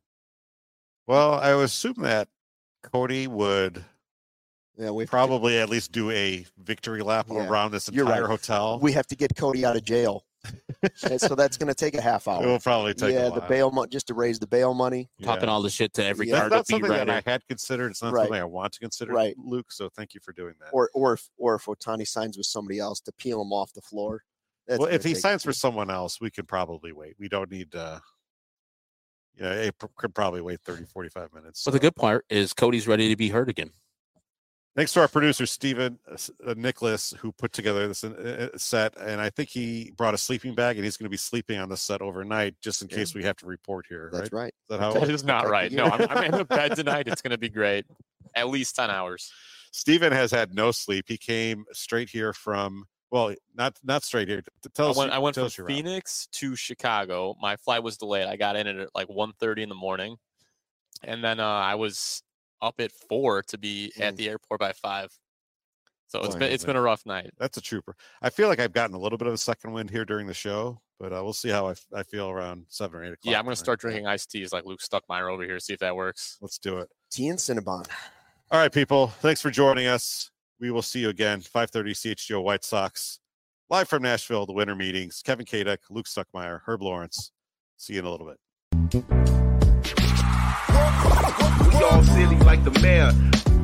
Well, I would assume that Cody would Yeah, we probably at least do a victory lap Yeah, around this you're entire right. hotel. we have to get Cody out of jail. And so that's going to take a half hour. It will probably take yeah, a while. the bail money, just to raise the bail money. Talking Yeah. all the shit to every Yeah. That's Cargo not beat something that writer. I had considered. It's not Right. something I want to consider, Right. Luke. So thank you for doing that. Or or if or if Otani signs with somebody else to peel him off the floor. That's well, gonna if he take- signs for someone else, we can probably wait. We don't need uh yeah, it pr- could probably wait thirty, forty-five minutes. But the so. good part is Cody's ready to be hurt again. Thanks to our producer, Steven uh, S- uh, Nicholas, who put together this uh, uh, set. And I think he brought a sleeping bag and he's going to be sleeping on the set overnight just in Yeah. case we have to report here. That's right? right. Is that how it Okay. That works? is not Okay. right. No, I'm, I'm in a bed tonight. It's going to be great. At least ten hours. Steven has had no sleep. He came straight here from, well, not not straight here. T- Tell I us, went, you- I went tell from us your route. Phoenix to Chicago. My flight was delayed. I got in at like one thirty in the morning. And then uh, I was up at four to be at Mm. the airport by five. So it's Boy, been it's is been a rough night. That's a trooper. I feel like I've gotten a little bit of a second wind here during the show, but uh, we'll see how I, f- I feel around seven or eight o'clock. Yeah, I'm going tonight. to start drinking iced teas like Luke Stuckmeyer over here, see if that works. Let's do it. Tea and Cinnabon. All right, people. Thanks for joining us. We will see you again, five thirty C H G O White Sox, live from Nashville, the winter meetings. Kevin Kadek, Luke Stuckmeyer, Herb Lawrence. See you in a little bit. We all silly like the mayor.